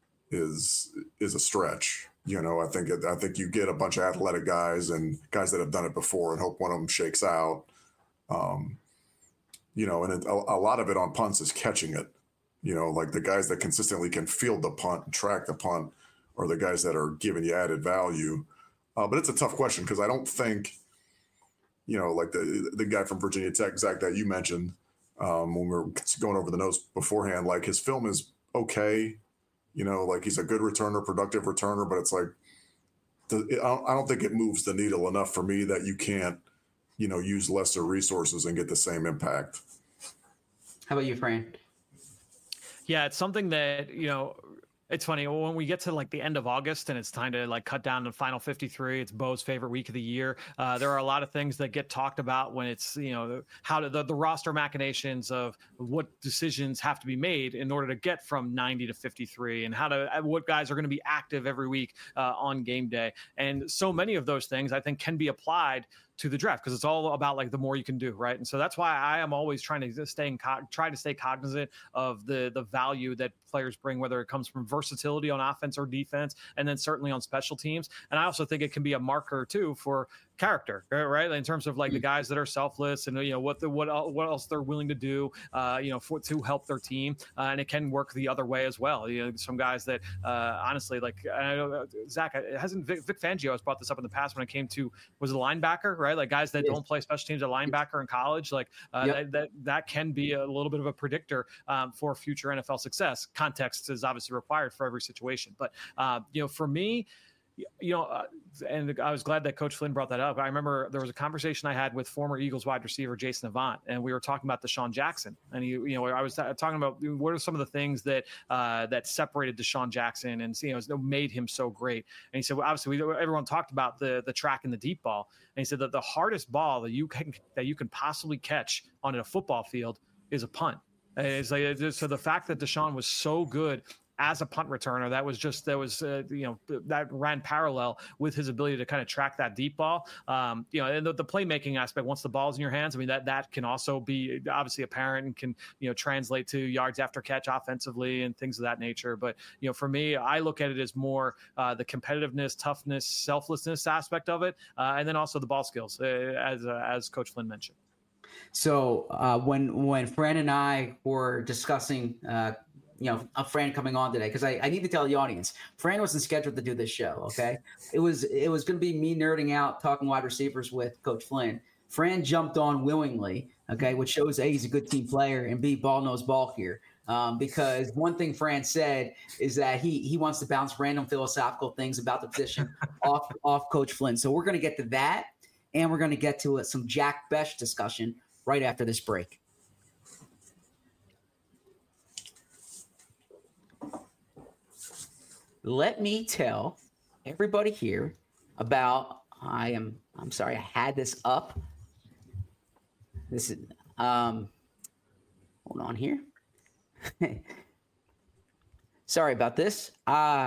Speaker 2: is is a stretch. You know, I think it, I think you get a bunch of athletic guys and guys that have done it before and hope one of them shakes out. Um, you know, and it, a, a lot of it on punts is catching it. You know, like the guys that consistently can field the punt and track the punt are the guys that are giving you added value. Uh, but it's a tough question because I don't think, you know, like the the guy from Virginia Tech, Zach, that you mentioned um, when we were going over the notes beforehand, like his film is okay. You know, like he's a good returner, productive returner, but it's like, the, I, don't, I don't think it moves the needle enough for me that you can't, you know, use lesser resources and get the same impact.
Speaker 1: How about you, Fran?
Speaker 3: Yeah, it's something that, you know, it's funny when we get to like the end of August and it's time to like cut down to final fifty-three. It's Bo's favorite week of the year. Uh, there are a lot of things that get talked about when it's, you know, how to the, the roster machinations of what decisions have to be made in order to get from ninety to fifty-three, and how to what guys are going to be active every week uh, on game day. And so many of those things I think can be applied to the draft because it's all about like the more you can do, right? And so that's why I am always trying to stay in co- try to stay cognizant of the the value that players bring, whether it comes from versatility on offense or defense, and then certainly on special teams. And I also think it can be a marker too for character, right? In terms of like the guys that are selfless and, you know, what the what what else they're willing to do, uh, you know, for to help their team, uh, and it can work the other way as well. You know, some guys that uh, honestly, like I know Zach, it hasn't Vic, Vic Fangio has brought this up in the past when it came to was it a linebacker, right? Like guys that yes. don't play special teams, a linebacker in college, like uh, yep. that, that that can be a little bit of a predictor um, for future N F L success. Context is obviously required for every situation, but uh, you know, for me. You know, uh, and I was glad that Coach Flynn brought that up. I remember there was a conversation I had with former Eagles wide receiver Jason Avant, and we were talking about Deshaun Jackson. And he, you know, I was talking about what are some of the things that uh, that separated Deshaun Jackson and you know made him so great. And he said, well, obviously, we, everyone talked about the the track and the deep ball, and he said that the hardest ball that you can that you can possibly catch on a football field is a punt. And it's like so the fact that Deshaun was so good as a punt returner, that was just that was uh, you know that ran parallel with his ability to kind of track that deep ball. Um, you know, and the, the playmaking aspect once the ball's in your hands, I mean that that can also be obviously apparent and can you know translate to yards after catch offensively and things of that nature. But you know, for me, I look at it as more uh, the competitiveness, toughness, selflessness aspect of it, uh, and then also the ball skills, uh, as uh, as Coach Flynn mentioned.
Speaker 1: So uh, when when Fran and I were discussing. Uh, you know, a Fran coming on today, because I, I need to tell the audience, Fran wasn't scheduled to do this show, okay? It was it was going to be me nerding out, talking wide receivers with Coach Flynn. Fran jumped on willingly, okay, which shows A, he's a good team player, and B, ball knows ball here. Um, because one thing Fran said is that he he wants to bounce random philosophical things about the position off, off Coach Flynn. So we're going to get to that, and we're going to get to a, some Jack Bech discussion right after this break. Let me tell everybody here about, I am, I'm sorry, I had this up. This is, um, hold on here. Sorry about this. Uh,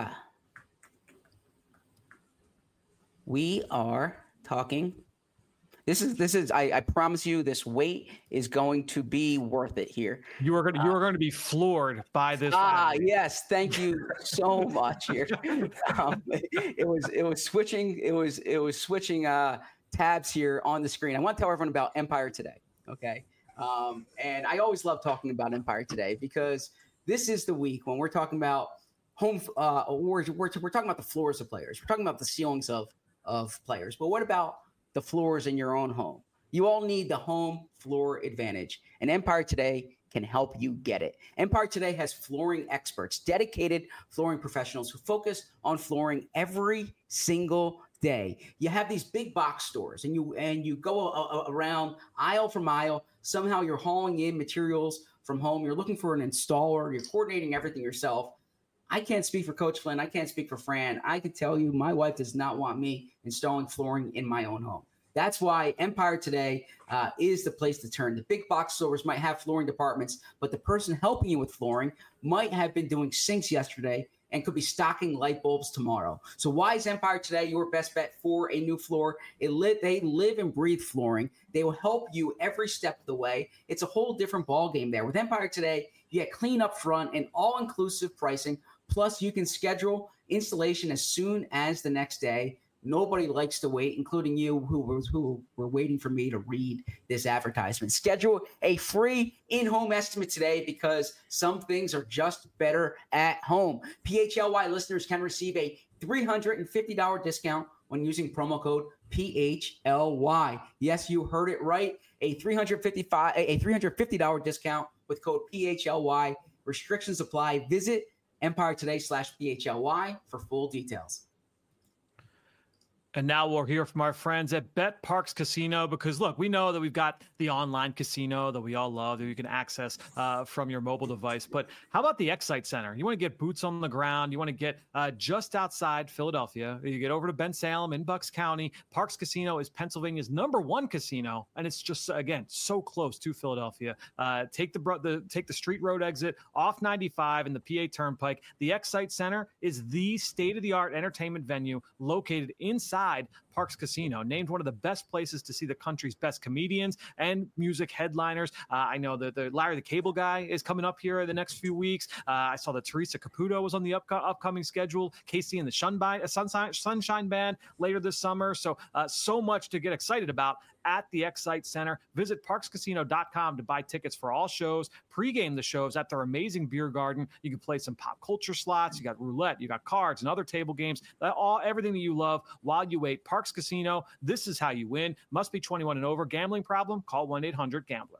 Speaker 1: we are talking. This is, this is, I, I promise you this wait is going to be worth it here.
Speaker 3: You are going to, you are going to be floored by this.
Speaker 1: Ah, family. Yes. Thank you so much here. Um, it was, it was switching. It was, it was switching uh, tabs here on the screen. I want to tell everyone about Empire Today. Okay. Um, and I always love talking about Empire Today because this is the week when we're talking about home, uh, we're, we're, we're talking about the floors of players. We're talking about the ceilings of, of players, but what about the floors in your own home? You all need the home floor advantage, and Empire Today can help you get it. Empire Today has flooring experts, dedicated flooring professionals who focus on flooring every single day. You have these big box stores, and you and you go a, a, around aisle for mile. Somehow you're hauling in materials from home. You're looking for an installer. You're coordinating everything yourself. I can't speak for Coach Flynn. I can't speak for Fran. I can tell you my wife does not want me installing flooring in my own home. That's why Empire Today uh, is the place to turn. The big box stores might have flooring departments, but the person helping you with flooring might have been doing sinks yesterday and could be stocking light bulbs tomorrow. So why is Empire Today your best bet for a new floor? It li- they live and breathe flooring. They will help you every step of the way. It's a whole different ballgame there. With Empire Today, you get clean up front and all-inclusive pricing. Plus, you can schedule installation as soon as the next day. Nobody likes to wait, including you who was who were waiting for me to read this advertisement. Schedule a free in-home estimate today because some things are just better at home. P H L Y listeners can receive a three hundred fifty dollars discount when using promo code P H L Y. Yes, you heard it right. A three hundred fifty-five dollars a three hundred fifty dollars discount with code P H L Y. Restrictions apply. Visit Empire Today slash P H L Y for full details.
Speaker 3: And now we'll hear from our friends at Bet Parks Casino, because look, we know that we've got the online casino that we all love that you can access uh, from your mobile device. But how about the Excite Center? You want to get boots on the ground. You want to get uh, just outside Philadelphia. You get over to Ben Salem in Bucks County. Parks Casino is Pennsylvania's number one casino, and it's just, again, so close to Philadelphia. Uh, take the, the take the Street Road exit off ninety-five and the P A Turnpike. The Excite Center is the state-of-the-art entertainment venue located inside Parks Casino, named one of the best places to see the country's best comedians and music headliners. Uh, I know that the Larry the Cable Guy is coming up here in the next few weeks. Uh, I saw that Teresa Caputo was on the up- upcoming schedule. Casey and the Shunbi- Sunshine, Sunshine Band later this summer. So, uh, so much to get excited about at the Excite Center. Visit parks casino dot com to buy tickets for all shows, pregame the shows at their amazing beer garden. You can play some pop culture slots. You got roulette, you got cards and other table games, all everything that you love while you wait. Parks Casino, this is how you win. Must be twenty-one and over. Gambling problem? Call one eight hundred gambler.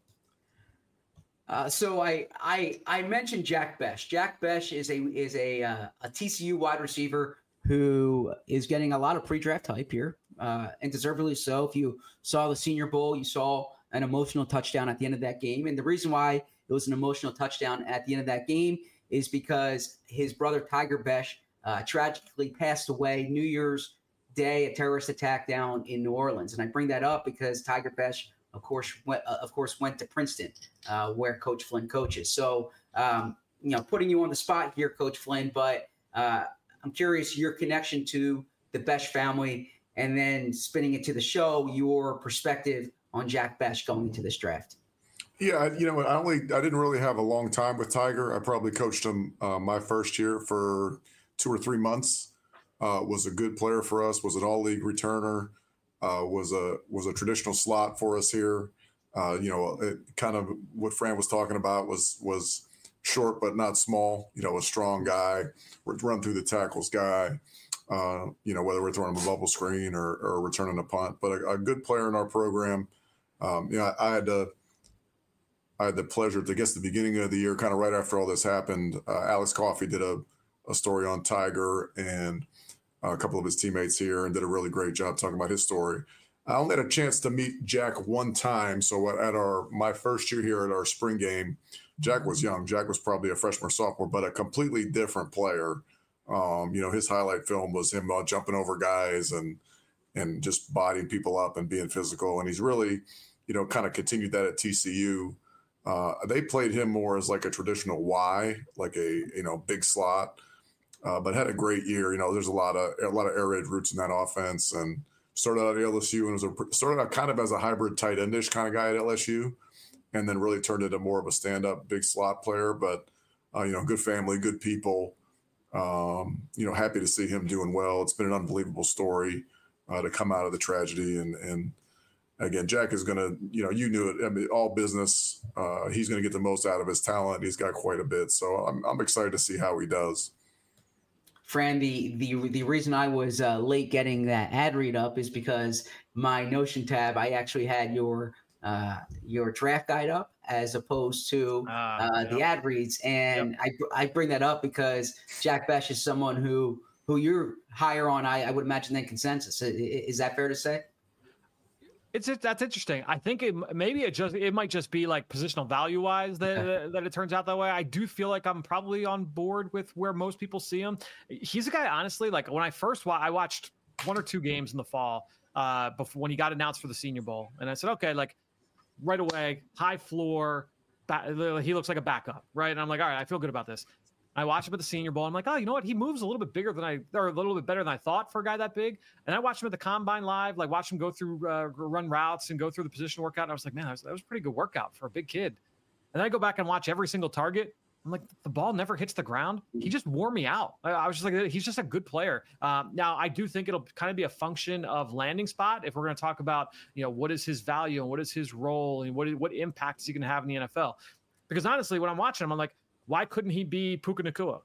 Speaker 1: Uh, so I, I I mentioned Jack Bech. Jack Bech is a is a uh, a T C U wide receiver who is getting a lot of pre-draft hype here, uh, and deservedly so. If you saw the Senior Bowl, you saw an emotional touchdown at the end of that game. And the reason why it was an emotional touchdown at the end of that game is because his brother Tiger Bech uh, tragically passed away New Year's Day, a terrorist attack down in New Orleans. And I bring that up because Tiger Bech, of course, went, uh, of course, went to Princeton, uh, where Coach Flynn coaches. So, um, you know, putting you on the spot here, Coach Flynn, but uh, I'm curious your connection to the Bech family, and then spinning it to the show, your perspective on Jack Bech going into this draft.
Speaker 2: Yeah, you know, I only I didn't really have a long time with Tiger. I probably coached him uh, my first year for two or three months. Uh, was a good player for us. Was an all-league returner. Uh, was a was a traditional slot for us here. Uh, you know, it, kind of what Fran was talking about was was. short but not small, you know, a strong guy, run through the tackles guy, uh, you know, whether we're throwing him a bubble screen or, or returning a punt, but a, a good player in our program. Um, you know, I, I had to, I had the pleasure to guess the beginning of the year, kind of right after all this happened, uh, Alex Coffey did a, a story on Tiger and a couple of his teammates here and did a really great job talking about his story. I only had a chance to meet Jack one time. So at our, my first year here at our spring game, Jack was young. Jack was probably a freshman or sophomore, but a completely different player. Um, you know, his highlight film was him uh, jumping over guys and and just bodying people up and being physical. And he's really, you know, kind of continued that at T C U. Uh, they played him more as like a traditional Y, like a, you know, big slot, uh, but had a great year. You know, there's a lot of a lot of air raid routes in that offense, and started out at L S U and was a, started out kind of as a hybrid tight endish kind of guy at L S U. And then really turned into more of a stand-up big slot player. But, uh, you know, good family, good people. Um, you know, happy to see him doing well. It's been an unbelievable story uh, to come out of the tragedy. And, and again, Jack is going to, you know, you knew it. I mean, all business. Uh, he's going to get the most out of his talent. He's got quite a bit. So I'm, I'm excited to see how he does.
Speaker 1: Fran, the the the reason I was uh, late getting that ad read up is because my Notion tab, I actually had your – Uh, your draft guide up as opposed to uh, uh, yep. the ad reads. And yep. I I bring that up because Jack Bech is someone who who you're higher on, I, I would imagine, than consensus. Is, is that fair to say?
Speaker 3: It's that's interesting. I think it maybe it just it might just be like positional value wise that okay. that it turns out that way. I do feel like I'm probably on board with where most people see him. He's a guy, honestly, like when I first wa- I watched one or two games in the fall uh, before when he got announced for the Senior Bowl, and I said, okay, like. Right away, high floor, back, he looks like a backup, right? And I'm like, all right, I feel good about this. I watched him at the Senior Bowl. I'm like, oh, you know what? He moves a little bit bigger than I, or a little bit better than I thought for a guy that big. And I watched him at the Combine live, like watch him go through, uh, run routes and go through the position workout. And I was like, man, that was, that was a pretty good workout for a big kid. And then I go back and watch every single target. I'm like, the ball never hits the ground. He just wore me out. I, I was just like, he's just a good player. Um, now, I do think it'll kind of be a function of landing spot. If we're going to talk about, you know, what is his value and what is his role and what, what impact is he going to have in the N F L? Because honestly, when I'm watching him, I'm like, why couldn't he be Puka Nacua?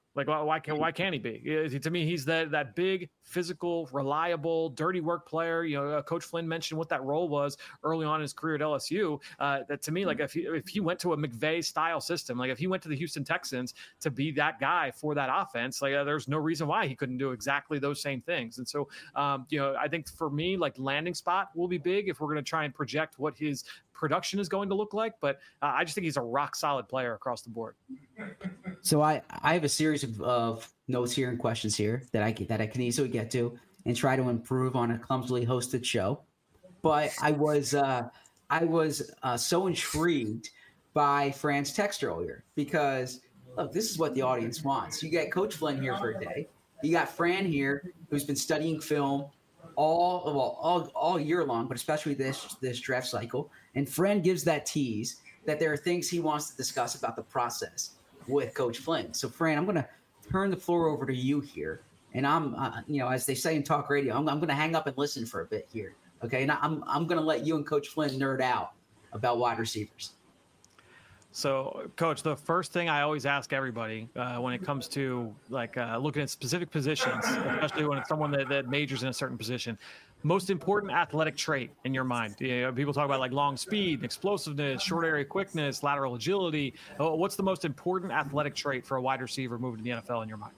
Speaker 3: Like, why, why can why can't he be? Is he- To me, he's that that big, physical, reliable, dirty work player. You know, uh, Coach Flynn mentioned what that role was early on in his career at L S U. Uh, that to me, like if he, if he went to a McVay style system, like if he went to the Houston Texans to be that guy for that offense, like uh, there's no reason why he couldn't do exactly those same things. And so, um, you know, I think for me, like landing spot will be big if we're going to try and project what his production is going to look like. But uh, I just think he's a rock solid player across the board.
Speaker 1: So I, I have a series of, of notes here and questions here that I that I can easily get to and try to improve on a clumsily hosted show. But I was uh, I was uh, so intrigued by Fran's text earlier because look, this is what the audience wants. You got Coach Flynn here for a day. You got Fran here who's been studying film all well all, all year long, but especially this this draft cycle. And Fran gives that tease that there are things he wants to discuss about the process with Coach Flynn. So, Fran, I'm going to turn the floor over to you here. And I'm, uh, you know, as they say in talk radio, I'm, I'm going to hang up and listen for a bit here. Okay. And I'm, I'm going to let you and Coach Flynn nerd out about wide receivers.
Speaker 3: So, Coach, the first thing I always ask everybody uh, when it comes to like uh, looking at specific positions, especially when it's someone that, that majors in a certain position, most important athletic trait in your mind. You know, people talk about like long speed, explosiveness, short area quickness, lateral agility. Oh, what's the most important athletic trait for a wide receiver moving to the N F L in your mind?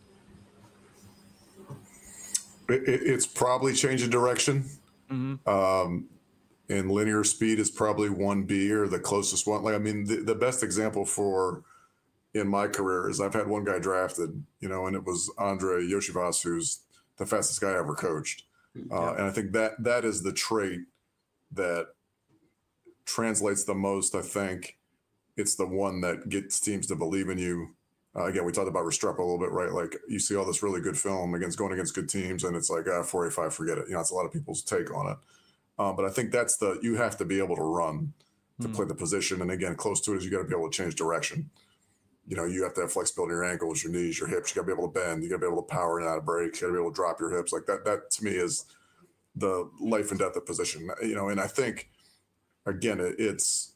Speaker 2: It, it's probably change of direction. Mm-hmm. Um, and linear speed is probably one B or the closest one. Like, I mean, the, the best example for in my career is I've had one guy drafted, you know, and it was Andre Yoshivas, who's the fastest guy I ever coached. Uh, and I think that that is the trait that translates the most. I think it's the one that gets teams to believe in you. Uh, again, we talked about Restrepo a little bit, right? Like you see all this really good film against going against good teams, and it's like, ah, four eighty-five, forget it. You know, it's a lot of people's take on it. Um, but I think that's the you have to be able to run to mm. play the position. And again, close to it is you got to be able to change direction. You know, you have to have flexibility in your ankles, your knees, your hips. You got to be able to bend. You got to be able to power in and out of breaks. You got to be able to drop your hips. Like that, that to me is the life and death of position. You know, and I think, again, it, it's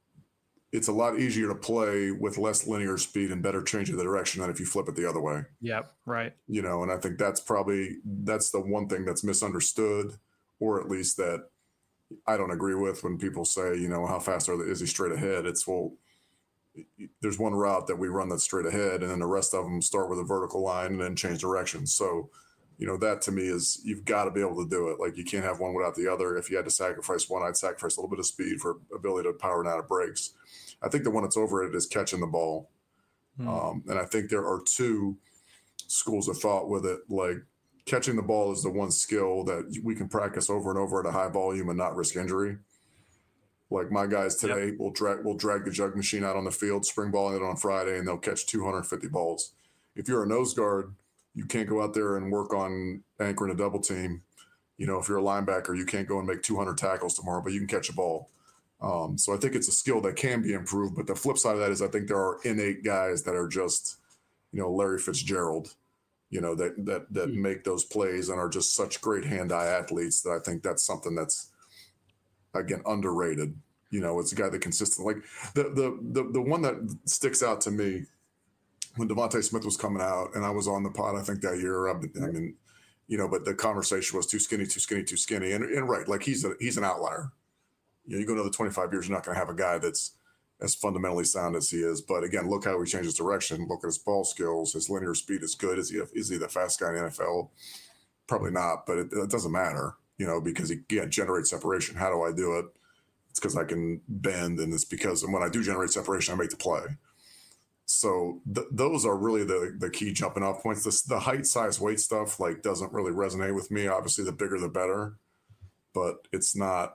Speaker 2: it's a lot easier to play with less linear speed and better change of the direction than if you flip it the other way.
Speaker 3: Yep, right.
Speaker 2: You know, and I think that's probably that's the one thing that's misunderstood, or at least that I don't agree with when people say, you know, how fast are they, is he straight ahead? It's, well, there's one route that we run that's straight ahead, and then the rest of them start with a vertical line and then change direction. So, you know, that to me is you've got to be able to do it. Like you can't have one without the other. If you had to sacrifice one, I'd sacrifice a little bit of speed for ability to power and out of breaks. I think the one that's over it is catching the ball. Hmm. Um, and I think there are two schools of thought with it. Like catching the ball is the one skill that we can practice over and over at a high volume and not risk injury. Like my guys today yep. will drag will drag the jug machine out on the field, spring balling it on Friday, and they'll catch two hundred fifty balls. If you're a nose guard, you can't go out there and work on anchoring a double team. You know, if you're a linebacker, you can't go and make two hundred tackles tomorrow, but you can catch a ball. Um, so I think it's a skill that can be improved. But the flip side of that is I think there are innate guys that are just, you know, Larry Fitzgerald, you know, that that that mm-hmm. make those plays and are just such great hand-eye athletes that I think that's something that's, again, underrated. You know, it's a guy that consistently, like the the the the one that sticks out to me when Devontae Smith was coming out, and I was on the pod, I think that year. I mean, you know, but the conversation was too skinny, too skinny, too skinny, and and right, like he's a he's an outlier. You know, you go another twenty-five years, you're not going to have a guy that's as fundamentally sound as he is. But again, look how he changed his direction. Look at his ball skills. His linear speed is good. Is he a, is he the fast guy in the N F L? Probably not, but it, it doesn't matter. You know, because he can't generate separation. How do I do it? It's because I can bend, and it's because when I do generate separation, I make the play. So th- those are really the the key jumping off points. This, the height, size, weight stuff like doesn't really resonate with me. Obviously, the bigger the better, but it's not.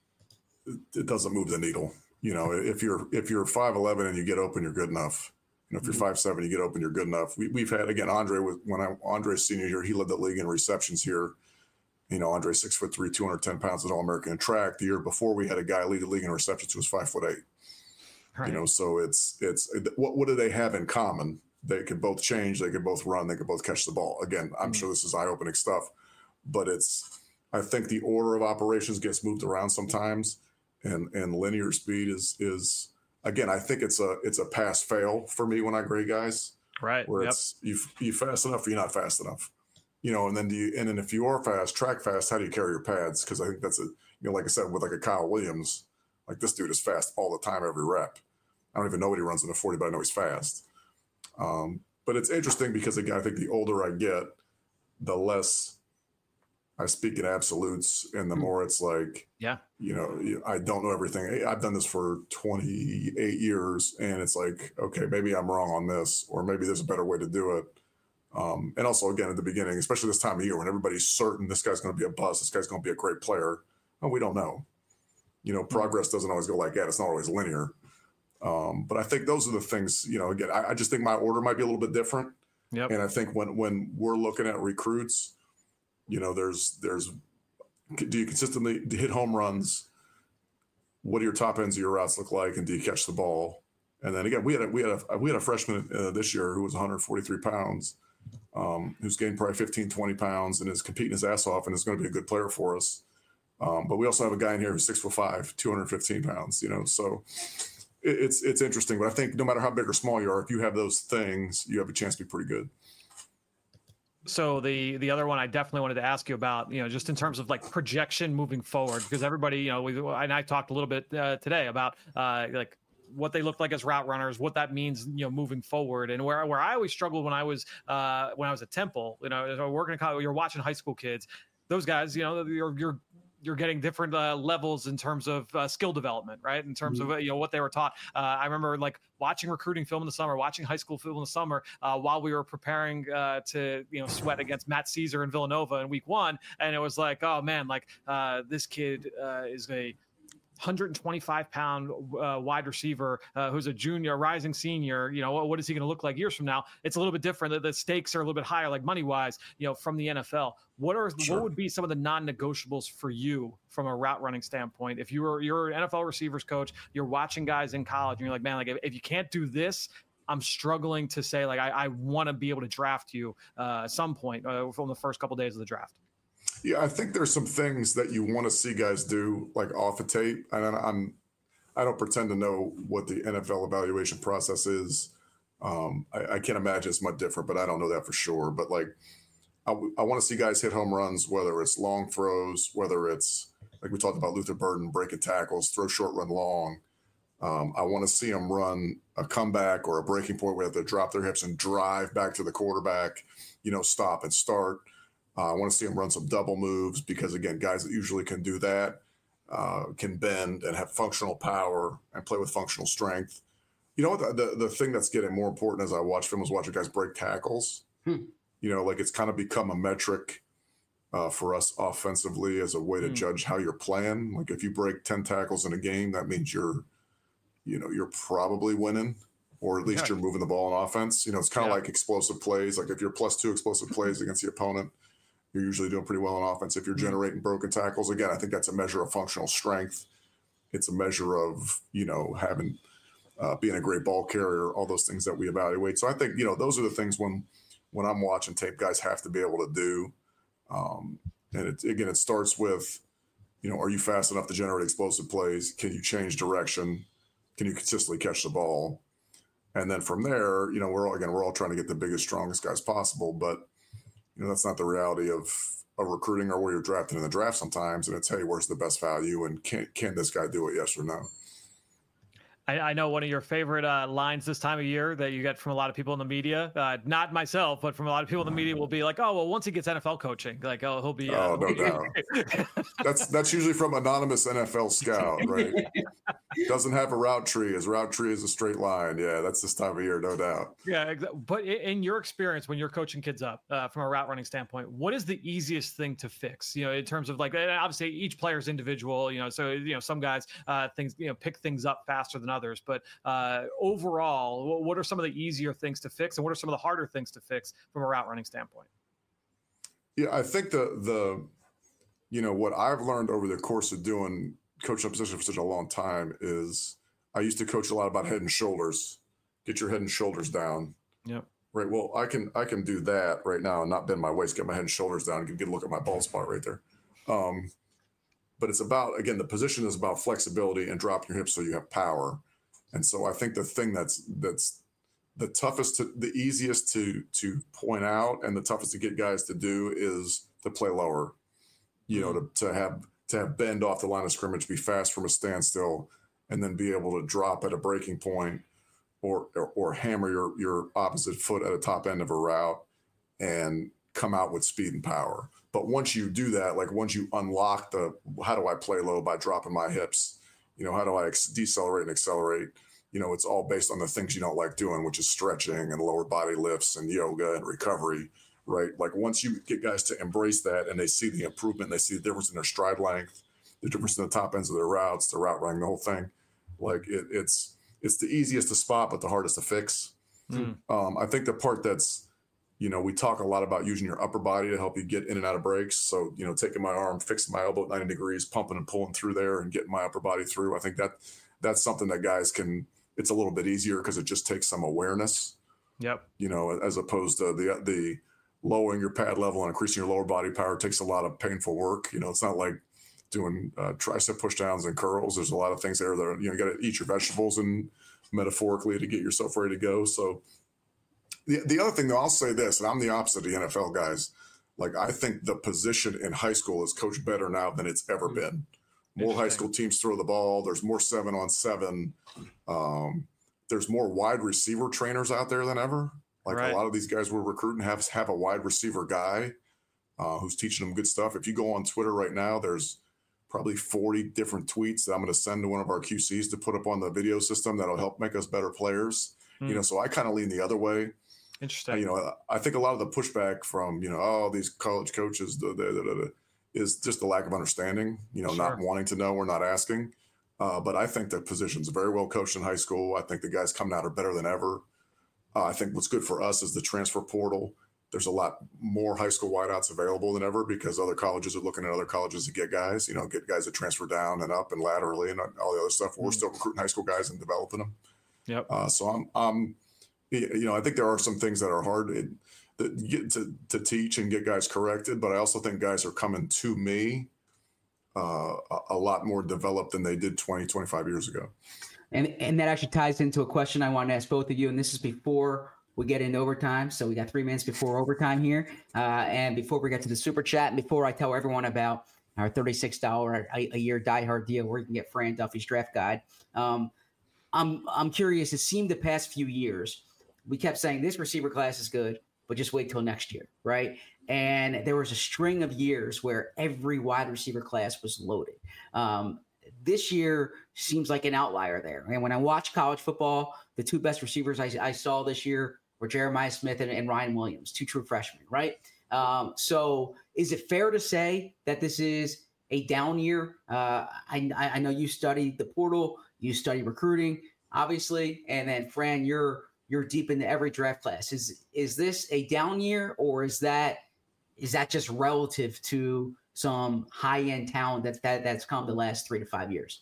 Speaker 2: It doesn't move the needle. You know, if you're if you're five eleven and you get open, you're good enough. You know, if you're five seven, you get open, you're good enough. We, we've had again Andre was when I Andre's senior year, he led the league in receptions here. You know, Andre six foot three, two hundred ten pounds at All American in track. The year before, we had a guy lead the league in receptions who was five foot eight. Right. You know, so it's it's what what do they have in common? They could both change, they could both run, they could both catch the ball. Again, I'm mm-hmm. sure this is eye opening stuff, but it's I think the order of operations gets moved around sometimes, and and linear speed is is again I think it's a it's a pass fail for me when I grade guys.
Speaker 3: Right.
Speaker 2: Where
Speaker 3: Yep.
Speaker 2: it's you you fast enough or you're not fast enough. You know, and then do you and then if you are fast, track fast, how do you carry your pads? Because I think that's a you know, like I said, with like a Kyle Williams, like this dude is fast all the time, every rep. I don't even know what he runs in the forty, but I know he's fast. Um, but it's interesting because again, I think the older I get, the less I speak in absolutes, and the more it's like,
Speaker 3: yeah,
Speaker 2: you know, I don't know everything. I've done this for twenty-eight years, and it's like, okay, maybe I'm wrong on this, or maybe there's a better way to do it. Um, and also, again, at the beginning, especially this time of year when everybody's certain this guy's going to be a bust, this guy's going to be a great player, and we don't know. You know, progress doesn't always go like that. It's not always linear. Um, but I think those are the things, you know, again, I, I just think my order might be a little bit different.
Speaker 3: Yep.
Speaker 2: And I think when when we're looking at recruits, you know, there's there's do you consistently hit home runs? What do your top ends of your routes look like, and do you catch the ball? And then again, we had a, we had a we had a freshman uh, this year who was one hundred forty-three pounds, um, who's gained probably fifteen, twenty pounds, and is competing his ass off, and is going to be a good player for us. Um, but we also have a guy in here who's six foot five, two hundred fifteen pounds. You know, so it, it's it's interesting. But I think no matter how big or small you are, if you have those things, you have a chance to be pretty good.
Speaker 3: So the the other one I definitely wanted to ask you about, you know, just in terms of like projection moving forward, because everybody, you know, we and I talked a little bit uh, today about uh, like what they look like as route runners, what that means, you know, moving forward, and where where I always struggled when I was uh, when I was at Temple, you know, working in college, you're watching high school kids, those guys, you know, you're you're you're getting different uh, levels in terms of uh, skill development, right? In terms mm-hmm. of, you know, what they were taught. Uh, I remember like watching recruiting film in the summer, watching high school film in the summer uh, while we were preparing uh, to, you know, sweat against Matt Caesar in Villanova in week one. And it was like, oh man, like uh, this kid uh, is a one hundred twenty-five pound uh, wide receiver uh, who's a junior, rising senior. You know, what, what is he going to look like years from now? It's a little bit different. The, the stakes are a little bit higher, like money wise, you know, from the N F L. What are sure. what would be some of the non-negotiables for you from a route running standpoint? If you were you're an N F L receivers coach, you're watching guys in college, and you're like, man, like if, if you can't do this, I'm struggling to say like I, I want to be able to draft you uh, at some point uh, from the first couple of days of the draft.
Speaker 2: Yeah, I think there's some things that you want to see guys do, like off the tape. And I'm, I don't pretend to know what the N F L evaluation process is. Um, I, I can't imagine it's much different, but I don't know that for sure. But like, I, I want to see guys hit home runs, whether it's long throws, whether it's like we talked about Luther Burden breaking tackles, throw short, run long. Um, I want to see them run a comeback or a breaking point where they drop their hips and drive back to the quarterback, you know, stop and start. Uh, I want to see them run some double moves because, again, guys that usually can do that uh, can bend and have functional power and play with functional strength. You know what? The, the, the thing that's getting more important as I watch film is watching guys break tackles. Hmm. You know, like it's kind of become a metric uh, for us offensively as a way to hmm. judge how you're playing. Like if you break ten tackles in a game, that means you're, you know, you're probably winning, or at least yeah. you're moving the ball on offense. You know, it's kind of yeah. like explosive plays. Like if you're plus two explosive plays against the opponent, you're usually doing pretty well on offense. If you're generating broken tackles, again, I think that's a measure of functional strength. It's a measure of, you know, having, uh, being a great ball carrier, all those things that we evaluate. So I think, you know, those are the things when, when I'm watching tape, guys have to be able to do. Um, and it, again, it starts with, you know, are you fast enough to generate explosive plays? Can you change direction? Can you consistently catch the ball? And then from there, you know, we're all, again, we're all trying to get the biggest, strongest guys possible, but you know, that's not the reality of, of recruiting or where you're drafting in the draft sometimes. And it's, hey, where's the best value? And can can this guy do it? Yes or no?
Speaker 3: I, I know one of your favorite uh, lines this time of year that you get from a lot of people in the media, uh, not myself, but from a lot of people in the media will be like, oh, well, once he gets N F L coaching, like, oh, he'll be. Uh,
Speaker 2: oh, no doubt. that's, that's usually from anonymous N F L scout, right? Doesn't have a route tree. His route tree is a straight line. Yeah, that's this time of year, no doubt.
Speaker 3: Yeah, exactly. But in your experience, when you're coaching kids up uh, from a route running standpoint, what is the easiest thing to fix? You know, in terms of like, obviously each player's individual, you know, so, you know, some guys uh, things, you know, pick things up faster than others. But uh, overall, what are some of the easier things to fix, and what are some of the harder things to fix from a route running standpoint?
Speaker 2: Yeah, I think the the you know what I've learned over the course of doing coaching a position for such a long time is I used to coach a lot about head and shoulders. Get your head and shoulders down.
Speaker 3: Yeah.
Speaker 2: Right. Well, I can I can do that right now and not bend my waist, get my head and shoulders down, and get a look at my bald spot right there. Um, but it's about, again, the position is about flexibility and dropping your hips so you have power. And so I think the thing that's that's the toughest, to, the easiest to to point out, and the toughest to get guys to do is to play lower. You know, to to have to have bend off the line of scrimmage, be fast from a standstill, and then be able to drop at a breaking point, or or, or hammer your your opposite foot at a top end of a route, and come out with speed and power. But once you do that, like once you unlock the, how do I play low by dropping my hips? You know, how do I ex- decelerate and accelerate? You know, it's all based on the things you don't like doing, which is stretching and lower body lifts and yoga and recovery, right? Like once you get guys to embrace that and they see the improvement, they see the difference in their stride length, the difference in the top ends of their routes, the route running, the whole thing. Like it, it's it's the easiest to spot, but the hardest to fix. Mm. Um, I think the part that's, you know, we talk a lot about using your upper body to help you get in and out of breaks. So, you know, taking my arm, fixing my elbow at ninety degrees, pumping and pulling through there and getting my upper body through. I think that that's something that guys can, it's a little bit easier because it just takes some awareness.
Speaker 3: Yep.
Speaker 2: You know, as opposed to the, the lowering your pad level and increasing your lower body power takes a lot of painful work. You know, it's not like doing uh, tricep push downs and curls. There's a lot of things there that, are, you know, you got to eat your vegetables and metaphorically to get yourself ready to go. So, The the other thing, though, I'll say this, and I'm the opposite of the N F L guys. Like, I think the position in high school is coached better now than it's ever been. More high school teams throw the ball. There's more seven on seven. Um, there's more wide receiver trainers out there than ever. Like right. A lot of these guys we're recruiting have have a wide receiver guy uh, who's teaching them good stuff. If you go on Twitter right now, there's probably forty different tweets that I'm going to send to one of our Q Cs to put up on the video system that'll help make us better players. Hmm. You know, so I kind of lean the other way.
Speaker 3: Interesting.
Speaker 2: You know, I think a lot of the pushback from, you know, oh, these college coaches da, da, da, da, da, is just the lack of understanding, you know, sure. Not wanting to know or not asking. Uh, but I think the position's very well coached in high school. I think the guys coming out are better than ever. Uh, I think what's good for us is the transfer portal. There's a lot more high school wideouts available than ever because other colleges are looking at other colleges to get guys, you know, get guys that transfer down and up and laterally and all the other stuff. Mm-hmm. We're still recruiting high school guys and developing them.
Speaker 3: Yep.
Speaker 2: Uh, so I'm, I'm, you know, I think there are some things that are hard to, that get to, to teach and get guys corrected, but I also think guys are coming to me uh, a, a lot more developed than they did twenty, twenty-five years ago.
Speaker 1: And and that actually ties into a question I want to ask both of you, and this is before we get into overtime. So we got three minutes before overtime here, uh, and before we get to the super chat, and before I tell everyone about our thirty-six dollars a, a year diehard deal where you can get Fran Duffy's draft guide. Um, I'm I'm curious. It seemed the past few years we kept saying this receiver class is good, but just wait till next year, right? And there was a string of years where every wide receiver class was loaded. Um, this year seems like an outlier there. And when I watch college football, the two best receivers I, I saw this year were Jeremiah Smith and, and Ryan Williams, two true freshmen, right? Um, so is it fair to say that this is a down year? Uh, I, I know you study the portal, you study recruiting, obviously, and then Fran, you're you're deep into every draft class. Is is this a down year, or is that is that just relative to some high end talent that that that's come the last three to five years?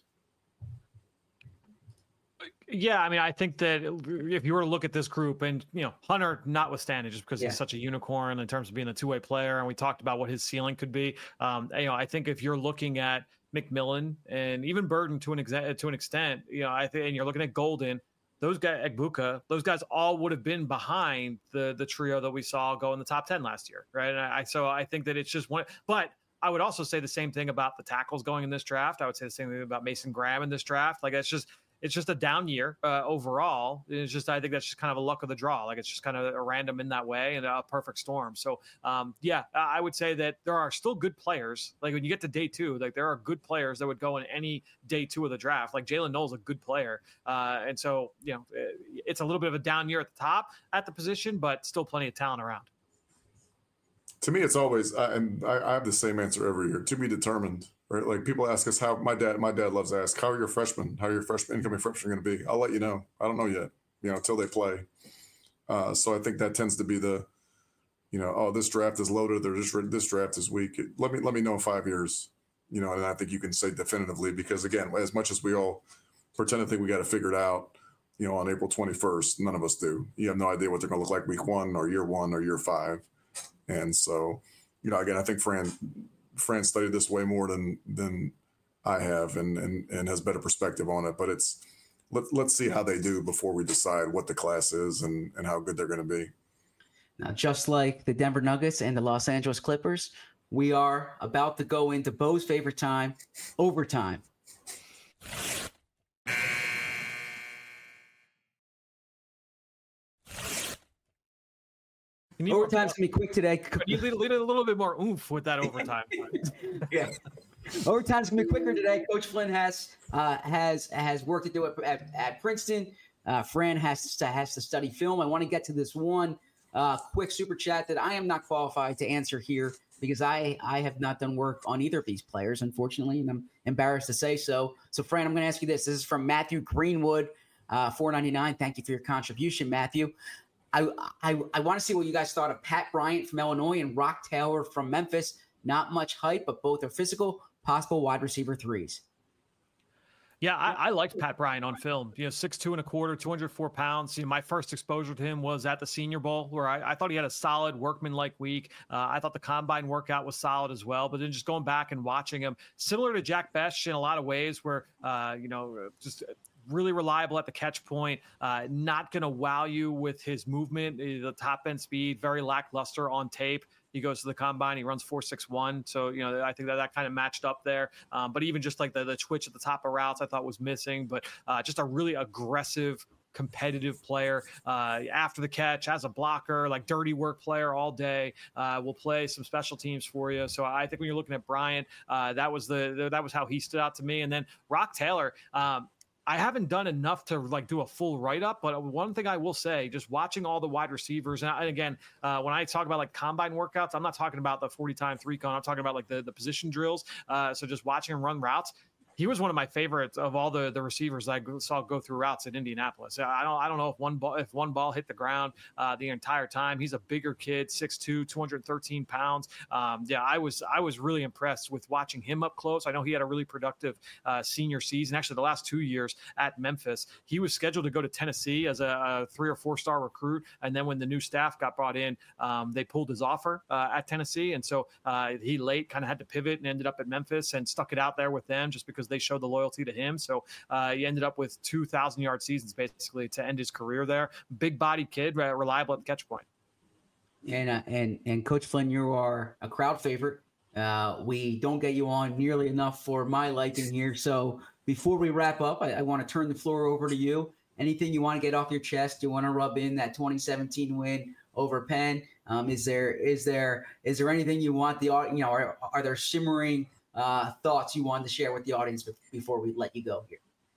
Speaker 3: Yeah, I mean, I think that if you were to look at this group, and you know, Hunter notwithstanding, just because
Speaker 1: yeah.
Speaker 3: he's such a unicorn in terms of being a two way player, and we talked about what his ceiling could be. Um, you know, I think if you're looking at McMillan and even Burden to an extent, to an extent, you know, I think, and you're looking at Golden. Those guys, Egbuka, those guys all would have been behind the the trio that we saw go in the top ten last year, right? And I so I think that it's just one. But I would also say the same thing about the tackles going in this draft. I would say the same thing about Mason Graham in this draft. Like it's just it's just a down year uh, overall. It's just I think that's just kind of a luck of the draw. Like it's just kind of a random in that way and a perfect storm. So um, yeah, I would say that there are still good players. Like when you get to day two, like there are good players that would go in any day two of the draft. Like Jalen Knowles, a good player, uh, and so you know it's a little bit of a down year at the top at the position, but still plenty of talent around.
Speaker 2: To me, it's always, uh, and I, I have the same answer every year. To be determined, right? Like people ask us how my dad, my dad loves to ask, how are your freshmen? How are your freshmen, incoming freshmen going to be? I'll let you know. I don't know yet, you know, until they play. Uh, so I think that tends to be the, you know, oh, this draft is loaded. They're just this draft is weak. Let me let me know in five years, you know, and I think you can say definitively because again, as much as we all pretend to think we got to figure it out, you know, on April twenty-first, none of us do. You have no idea what they're going to look like week one or year one or year five. And so, you know, again, I think Fran Fran studied this way more than than I have and and and has better perspective on it. But it's let, let's see how they do before we decide what the class is and, and how good they're going to be.
Speaker 1: Now, just like the Denver Nuggets and the Los Angeles Clippers, we are about to go into Bo's favorite time, overtime. Overtime's going to be quick today.
Speaker 3: You need, need a little bit more oomph with that overtime.
Speaker 1: Yeah. Overtime's going to be quicker today. Coach Flynn has uh, has has work to do at, at, at Princeton. Uh, Fran has to, has to study film. I want to get to this one uh, quick super chat that I am not qualified to answer here because I, I have not done work on either of these players, unfortunately, and I'm embarrassed to say so. So, Fran, I'm going to ask you this. This is from Matthew Greenwood, uh, four ninety-nine. Thank you for your contribution, Matthew. I, I I want to see what you guys thought of Pat Bryant from Illinois and Rock Taylor from Memphis. Not much hype, but both are physical, possible wide receiver threes.
Speaker 3: Yeah, I, I liked Pat Bryant on film. You know, six two and a quarter, two hundred four pounds. You know, my first exposure to him was at the Senior Bowl, where I, I thought he had a solid workman-like week. Uh, I thought the combine workout was solid as well. But then just going back and watching him, similar to Jack Bech in a lot of ways, where uh, you know, just really reliable at the catch point, uh, not going to wow you with his movement, the top end speed, very lackluster on tape. He goes to the combine, he runs four six one. So, you know, I think that that kind of matched up there. Um, but even just like the, the twitch at the top of routes, I thought was missing. But uh, just a really aggressive, competitive player uh, after the catch, as a blocker, like dirty work player all day. Uh, will play some special teams for you. So I think when you're looking at Bryant, uh, that was the, the that was how he stood out to me. And then Rock Taylor, um, I haven't done enough to like do a full write-up, but one thing I will say, just watching all the wide receivers, and, I, and again, uh, when I talk about like combine workouts, I'm not talking about the forty time three con, I'm talking about like the, the position drills. Uh, so just watching him run routes, he was one of my favorites of all the, the receivers I saw go through routes at Indianapolis. I don't I don't know if one ball if one ball hit the ground uh, the entire time. He's a bigger kid, six two, two hundred thirteen pounds. Um, yeah, I was I was really impressed with watching him up close. I know he had a really productive uh, senior season. Actually, the last two years at Memphis, he was scheduled to go to Tennessee as a, a three or four star recruit, and then when the new staff got brought in, um, they pulled his offer uh, at Tennessee, and so uh, he late kind of had to pivot and ended up at Memphis and stuck it out there with them just because they showed the loyalty to him. So uh, he ended up with two thousand yard seasons basically to end his career there. Big body kid, uh, reliable at the catch point.
Speaker 1: And, uh, and, and Coach Flynn, you are a crowd favorite. Uh, we don't get you on nearly enough for my liking here. So before we wrap up, I, I want to turn the floor over to you. Anything you want to get off your chest? Do you want to rub in that twenty seventeen win over Penn? Um, is there, is there, is there anything you want the, you know, are, are there shimmering uh, thoughts you wanted to share with the audience before we let you go here?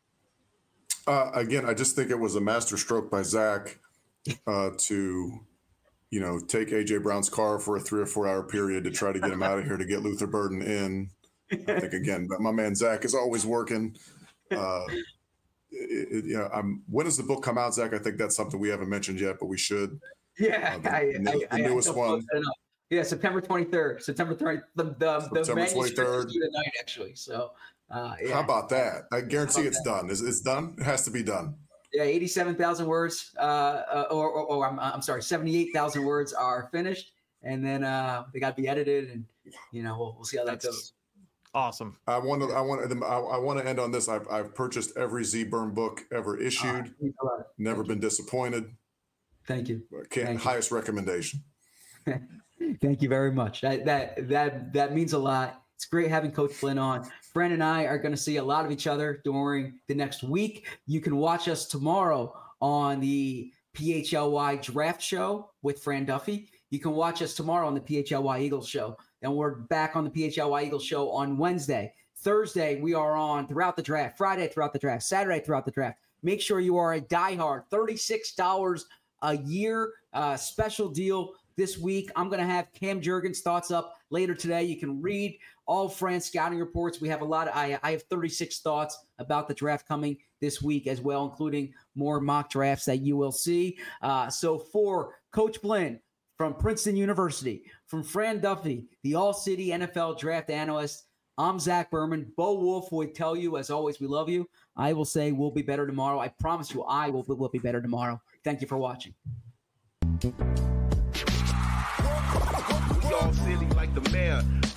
Speaker 2: Uh, again, I just think it was a master stroke by Zach uh, to, you know, take A J Brown's car for a three or four hour period to try to get him out of here to get Luther Burden in. I think, again, but my man Zach is always working. Uh, it, it, you know, I'm, when does the book come out, Zach? I think that's something we haven't mentioned yet, but we should.
Speaker 1: Yeah,
Speaker 2: uh, the,
Speaker 1: I,
Speaker 2: the, the
Speaker 1: I,
Speaker 2: newest
Speaker 1: I
Speaker 2: one.
Speaker 1: Yeah, September twenty-third. September thirtieth. The the, the
Speaker 2: September twenty-third
Speaker 1: tonight, actually. So, uh, yeah.
Speaker 2: How about that? I guarantee it's that? done. Is it's done? It has to be done.
Speaker 1: Yeah, eighty-seven thousand words, uh, uh, or, or, or I'm, I'm sorry, seventy-eight thousand words are finished, and then uh, they got to be edited, and you know we'll, we'll see how that
Speaker 3: That's
Speaker 1: goes.
Speaker 3: Awesome.
Speaker 2: I want to. I want to. I, I want to end on this. I've I've purchased every Z-Burn book ever issued.
Speaker 1: Uh,
Speaker 2: Never
Speaker 1: Thank
Speaker 2: been
Speaker 1: you.
Speaker 2: disappointed.
Speaker 1: Thank you.
Speaker 2: Can't,
Speaker 1: Thank
Speaker 2: highest you. recommendation.
Speaker 1: Thank you very much. That that that that means a lot. It's great having Coach Flynn on. Fran and I are going to see a lot of each other during the next week. You can watch us tomorrow on the P H L Y Draft Show with Fran Duffy. You can watch us tomorrow on the P H L Y Eagles Show. And we're back on the P H L Y Eagles Show on Wednesday. Thursday, we are on throughout the draft. Friday, throughout the draft. Saturday, throughout the draft. Make sure you are a diehard. thirty-six dollars a year uh, special deal this week. I'm going to have Cam Jurgens' thoughts up later today. You can read all Fran's scouting reports. We have a lot. Of, I, I have thirty-six thoughts about the draft coming this week as well, including more mock drafts that you will see. Uh, so for Coach Flynn from Princeton University, from Fran Duffy, the All-City N F L draft analyst, I'm Zach Berman. Bo Wolf would tell you, as always, we love you. I will say we'll be better tomorrow. I promise you I will, will be better tomorrow. Thank you for watching.
Speaker 4: We all silly like the mayor.